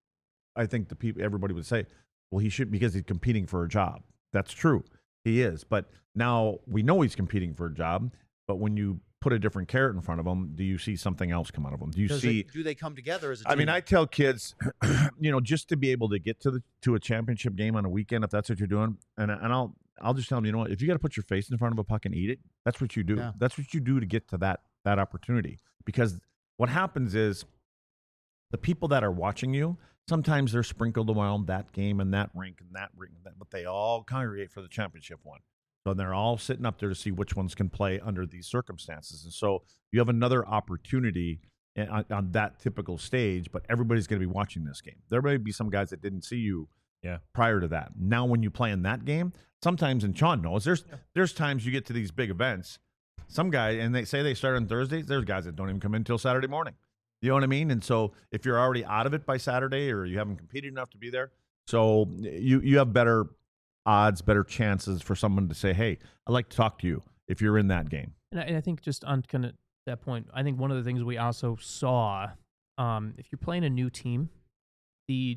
I think the people everybody would say, well, he should because he's competing for a job. That's true, he is. But now we know he's competing for a job. But when you put a different carrot in front of him, do you see something else come out of him? Do you Does see? it- do they come together as a I team? mean, I tell kids, you know, just to be able to get to the to a championship game on a weekend, if that's what you're doing, and and I'll I'll just tell them, you know what, if you got to put your face in front of a puck and eat it, that's what you do. Yeah. That's what you do to get to that that opportunity. Because what happens is, the people that are watching you, sometimes they're sprinkled around that game and that rink and that rink, and that, but they all congregate for the championship one. So they're all sitting up there to see which ones can play under these circumstances. And so you have another opportunity on, on that typical stage, but everybody's going to be watching this game. There may be some guys that didn't see you Yeah. prior to that. Now, when you play in that game, sometimes, and Sean knows, there's there's times you get to these big events, some guy, and they say they start on Thursdays, there's guys that don't even come in until Saturday morning. You know what I mean? And so if you're already out of it by Saturday or you haven't competed enough to be there, so you you have better odds, better chances for someone to say, hey, I'd like to talk to you if you're in that game. And I, and I think just on kind of that point, I think one of the things we also saw, um, if you're playing a new team, the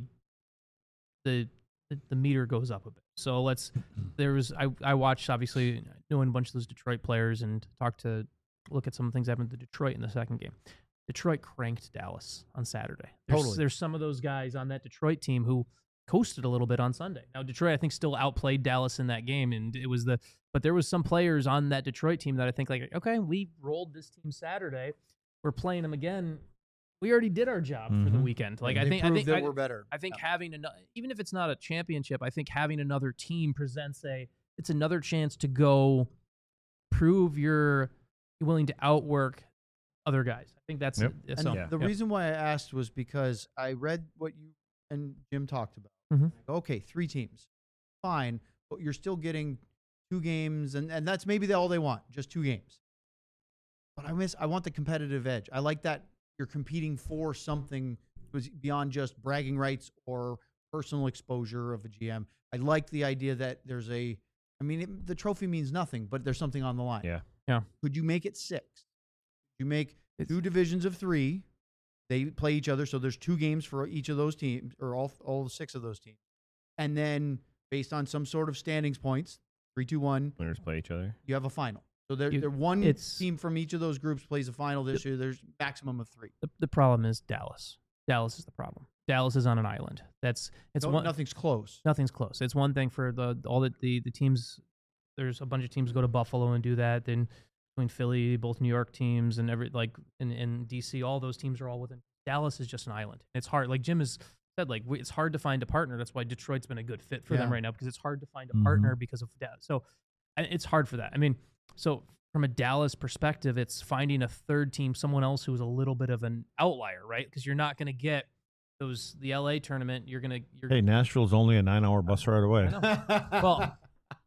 the the, the meter goes up a bit. So let's there was I I watched obviously knowing a bunch of those Detroit players and talked to look at some things that happened to Detroit in the second game. Detroit cranked Dallas on Saturday. There's, Totally. There's some of those guys on that Detroit team who coasted a little bit on Sunday. Now Detroit, I think, still outplayed Dallas in that game, and it was the. But there was some players on that Detroit team that I think like, okay, we rolled this team Saturday. We're playing them again. We already did our job for the Mhm. weekend. Like I They think, I proved think, that I, we're better. I think Yeah. having another, even if it's not a championship, I think having another team presents a. It's another chance to go prove you're willing to outwork other guys. I think that's Yep. that's And all. Yeah. the Yep. reason why I asked was because I read what you and Jim talked about. Mhm. Okay, three teams, fine, but you're still getting two games, and, and that's maybe all they want, just two games. But I miss. I want the competitive edge. I like that you're competing for something was beyond just bragging rights or personal exposure of a G M. I like the idea that there's a. I mean, it, the trophy means nothing, but there's something on the line. Yeah. Yeah. Could you make it six? You make It's- two divisions of three. They play each other, so there's two games for each of those teams, or all all six of those teams. And then, based on some sort of standings points, three, two, one, Winners play each other. you have a final. So there, You- there one it's- team from each of those groups plays a final this year. There's maximum of three. The, the problem is Dallas. Dallas is the problem. Dallas is on an island. That's it's No- one. nothing's close. Nothing's close. It's one thing for the all the, the the teams. There's a bunch of teams go to Buffalo and do that. Then between Philly, both New York teams, and every like in, in D C, all those teams are all within. Dallas is just an island. It's hard. Like Jim has said, like we, it's hard to find a partner. That's why Detroit's been a good fit for them Yeah. right now because it's hard to find a Mhm. partner because of that. So and it's hard for that. I mean, so from a Dallas perspective, it's finding a third team, someone else who's a little bit of an outlier, right? Because you're not going to get those the L A tournament. You're gonna you're Hey, Nashville's only a nine-hour bus ride away. I know. Well,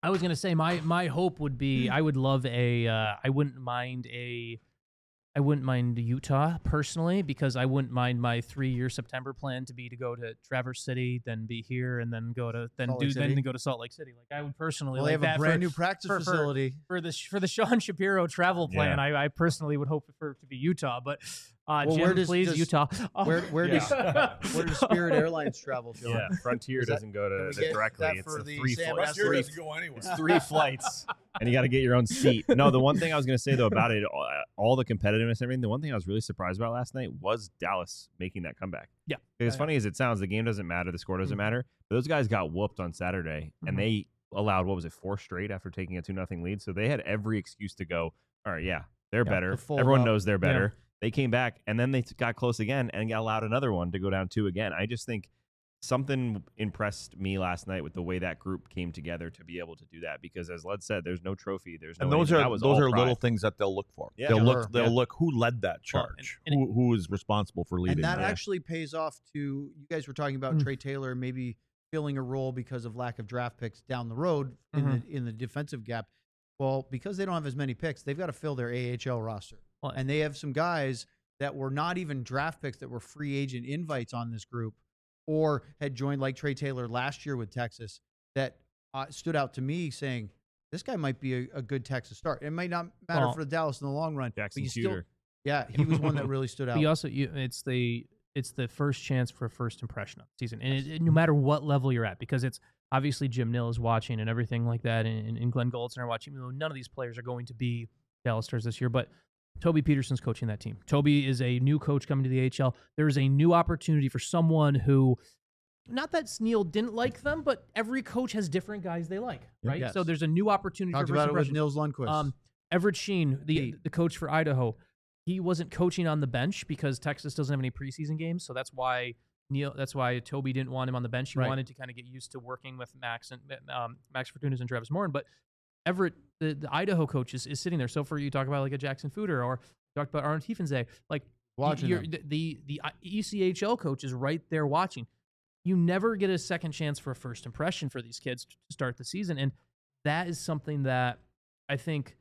I was gonna say my my hope would be I would love a uh, I wouldn't mind a I wouldn't mind Utah personally because I wouldn't mind my three year September plan to be to go to Traverse City, then be here, and then go to then Salt do Lake then City? go to Salt Lake City. Like I would personally Well, like they have that a brand for, new practice for, for- facility. for the for the Sean Shapiro travel plan. Yeah. I, I personally would hope for it to be Utah, but uh, Well, Jim, where does- please does- Utah. Where where does Yeah. where does Spirit Airlines travel, Sean? Yeah, Frontier Is that- doesn't go can to we the get directly. that It's for a the three Sam flights. Frontier Three, doesn't go anywhere. it's three flights, and you got to get your own seat. No, the one thing I was going to say though about it, all, all the competitiveness and everything. The one thing I was really surprised about last night was Dallas making that comeback. Yeah. As Yeah, funny as it sounds, the game doesn't matter, the score doesn't Mhm. matter. But those guys got whooped on Saturday, Mhm. and they allowed what was it, four straight after taking a two nothing lead. So they had every excuse to go. All right, yeah, they're Yeah, better. to fold Everyone up. knows they're better. They came back, and then they t- got close again and allowed another one to go down two again. I just think something impressed me last night with the way that group came together to be able to do that. Because as Led said, there's no trophy. There's no And those anything. are That was those all are pride. little things that they'll look for. Yeah. they'll Sure. look. They'll Yeah. look who led that Well, charge. and- and who who is responsible for leading? And that that. actually pays off to you guys were talking about Mm. Trey Taylor maybe filling a role because of lack of draft picks down the road in Mhm. the in the defensive gap. Well, because they don't have as many picks, they've got to fill their A H L roster. Well, And they have some guys that were not even draft picks that were free agent invites on this group or had joined like Trey Taylor last year with Texas that uh, stood out to me saying this guy might be a, a good Texas start. It might not matter Well, for Dallas in the long run. Jackson but you still, Shooter. yeah, he was one that really stood out. But you also, you, it's the it's the first chance for a first impression of the season, and it, it- no matter what level you're at, because it's obviously Jim Nill is watching and everything like that, and, and Glenn Goldson are watching. You know, none of these players are going to be Dallas Stars this year, but Toby Peterson's coaching that team. Toby is a new coach coming to the A H L. There is a new opportunity for someone who, not that Neil didn't like them, but every coach has different guys they like, right? Yes. So there's a new opportunity Talked for about first it with impression. Nils Lundqvist. Um, Everett Sheen, the Pete. the coach for Idaho, he wasn't coaching on the bench because Texas doesn't have any preseason games, so that's why Neil. That's why Toby didn't want him on the bench. He Right. wanted to kind of get used to working with Max and um, Max Fortunas and Travis Morin. But Everett, the, the Idaho coach, is, is sitting there. So for you talk about like a Jackson Footer or talk about Arnold Tiefenze, like Watching you're, them. the, the the E C H L coach is right there watching. You never get a second chance for a first impression for these kids to start the season, and that is something that I think.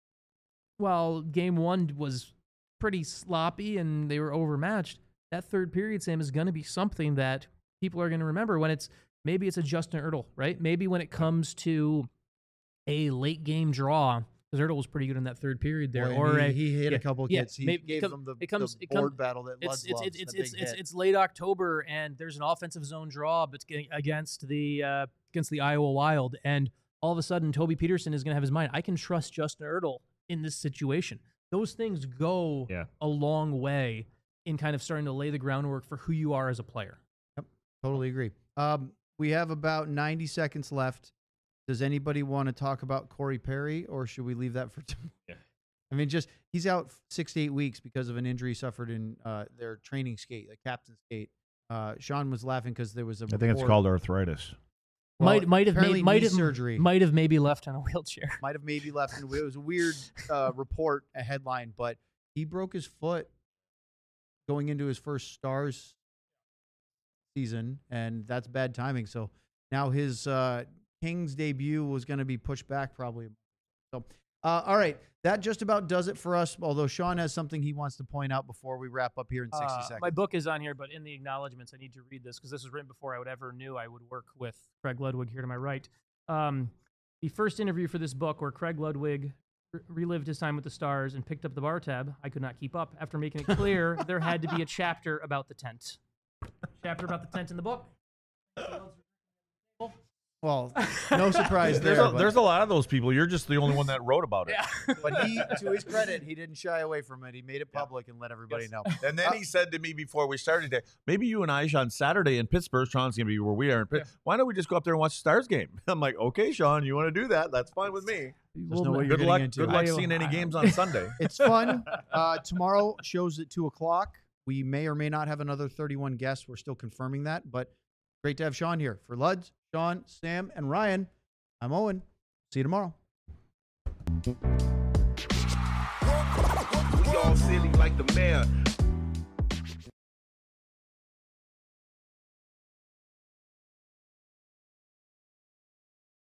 Well, game one was pretty sloppy and they were overmatched. That third period, Sam, is going to be something that people are going to remember when it's maybe it's a Justin Ertl, right? Maybe when it comes to a late game draw, because Ertl was pretty good in that third period there, Boy, and or he, a, he hit yeah, a couple yeah, kids. He maybe- gave it come- them the, it comes- the it come- board battle that it's Lutz it's loves. it's it's that it's, big it's, hit. it's late October and there's an offensive zone draw but against the uh, against the Iowa Wild, and all of a sudden Toby Peterson is going to have his mind. I can trust Justin Ertl in this situation. Those things go Yeah. a long way in kind of starting to lay the groundwork for who you are as a player. Totally agree. Um, we have about ninety seconds left. Does anybody want to talk about Corey Perry, or should we leave that for tomorrow? Yeah. I mean, just he's out six to eight weeks because of an injury suffered in uh, their training skate, the captain's skate. Uh, Sean was laughing because there was a. I think it's report- called arthritis. Well, might might have apparently made, might knee have surgery. might have maybe left on a wheelchair. Might have maybe left. In, it was a weird uh, report, a headline, but he broke his foot going into his first Stars season, and that's bad timing. So now his uh, Kings debut was going to be pushed back probably. So, uh, all right, that just about does it for us. Although Sean has something he wants to point out before we wrap up here in sixty Uh, seconds. My book is on here, but in the acknowledgments, I need to read this because this was written before I would ever knew I would work with Craig Ludwig here to my right. Um, the first interview for this book, where Craig Ludwig re- relived his time with the Stars and picked up the bar tab, I could not keep up. After making it clear there had to be a chapter about the tent. Chapter about the tent in the book. Well, no surprise There's there. a, but- there's a lot of those people. You're just the only one that wrote about it. Yeah. but he, to his credit, he didn't shy away from it. He made it public and let everybody Yes. know. And then he said to me before we started today, maybe you and I on Saturday in Pittsburgh, Sean's going to be where we are in Pittsburgh. Why don't we just go up there and watch the Stars game? I'm like, okay, Sean, you want to do that? That's fine with me. Just know what you're Good getting luck. into. Good luck I- seeing any I- games on Sunday. It's fun. Uh, tomorrow shows at two o'clock. We may or may not have another thirty-one guests. We're still confirming that, but great to have Sean here. For Luds, Sean, Sam, and Ryan, I'm Owen. See you tomorrow. We all silly like the mayor.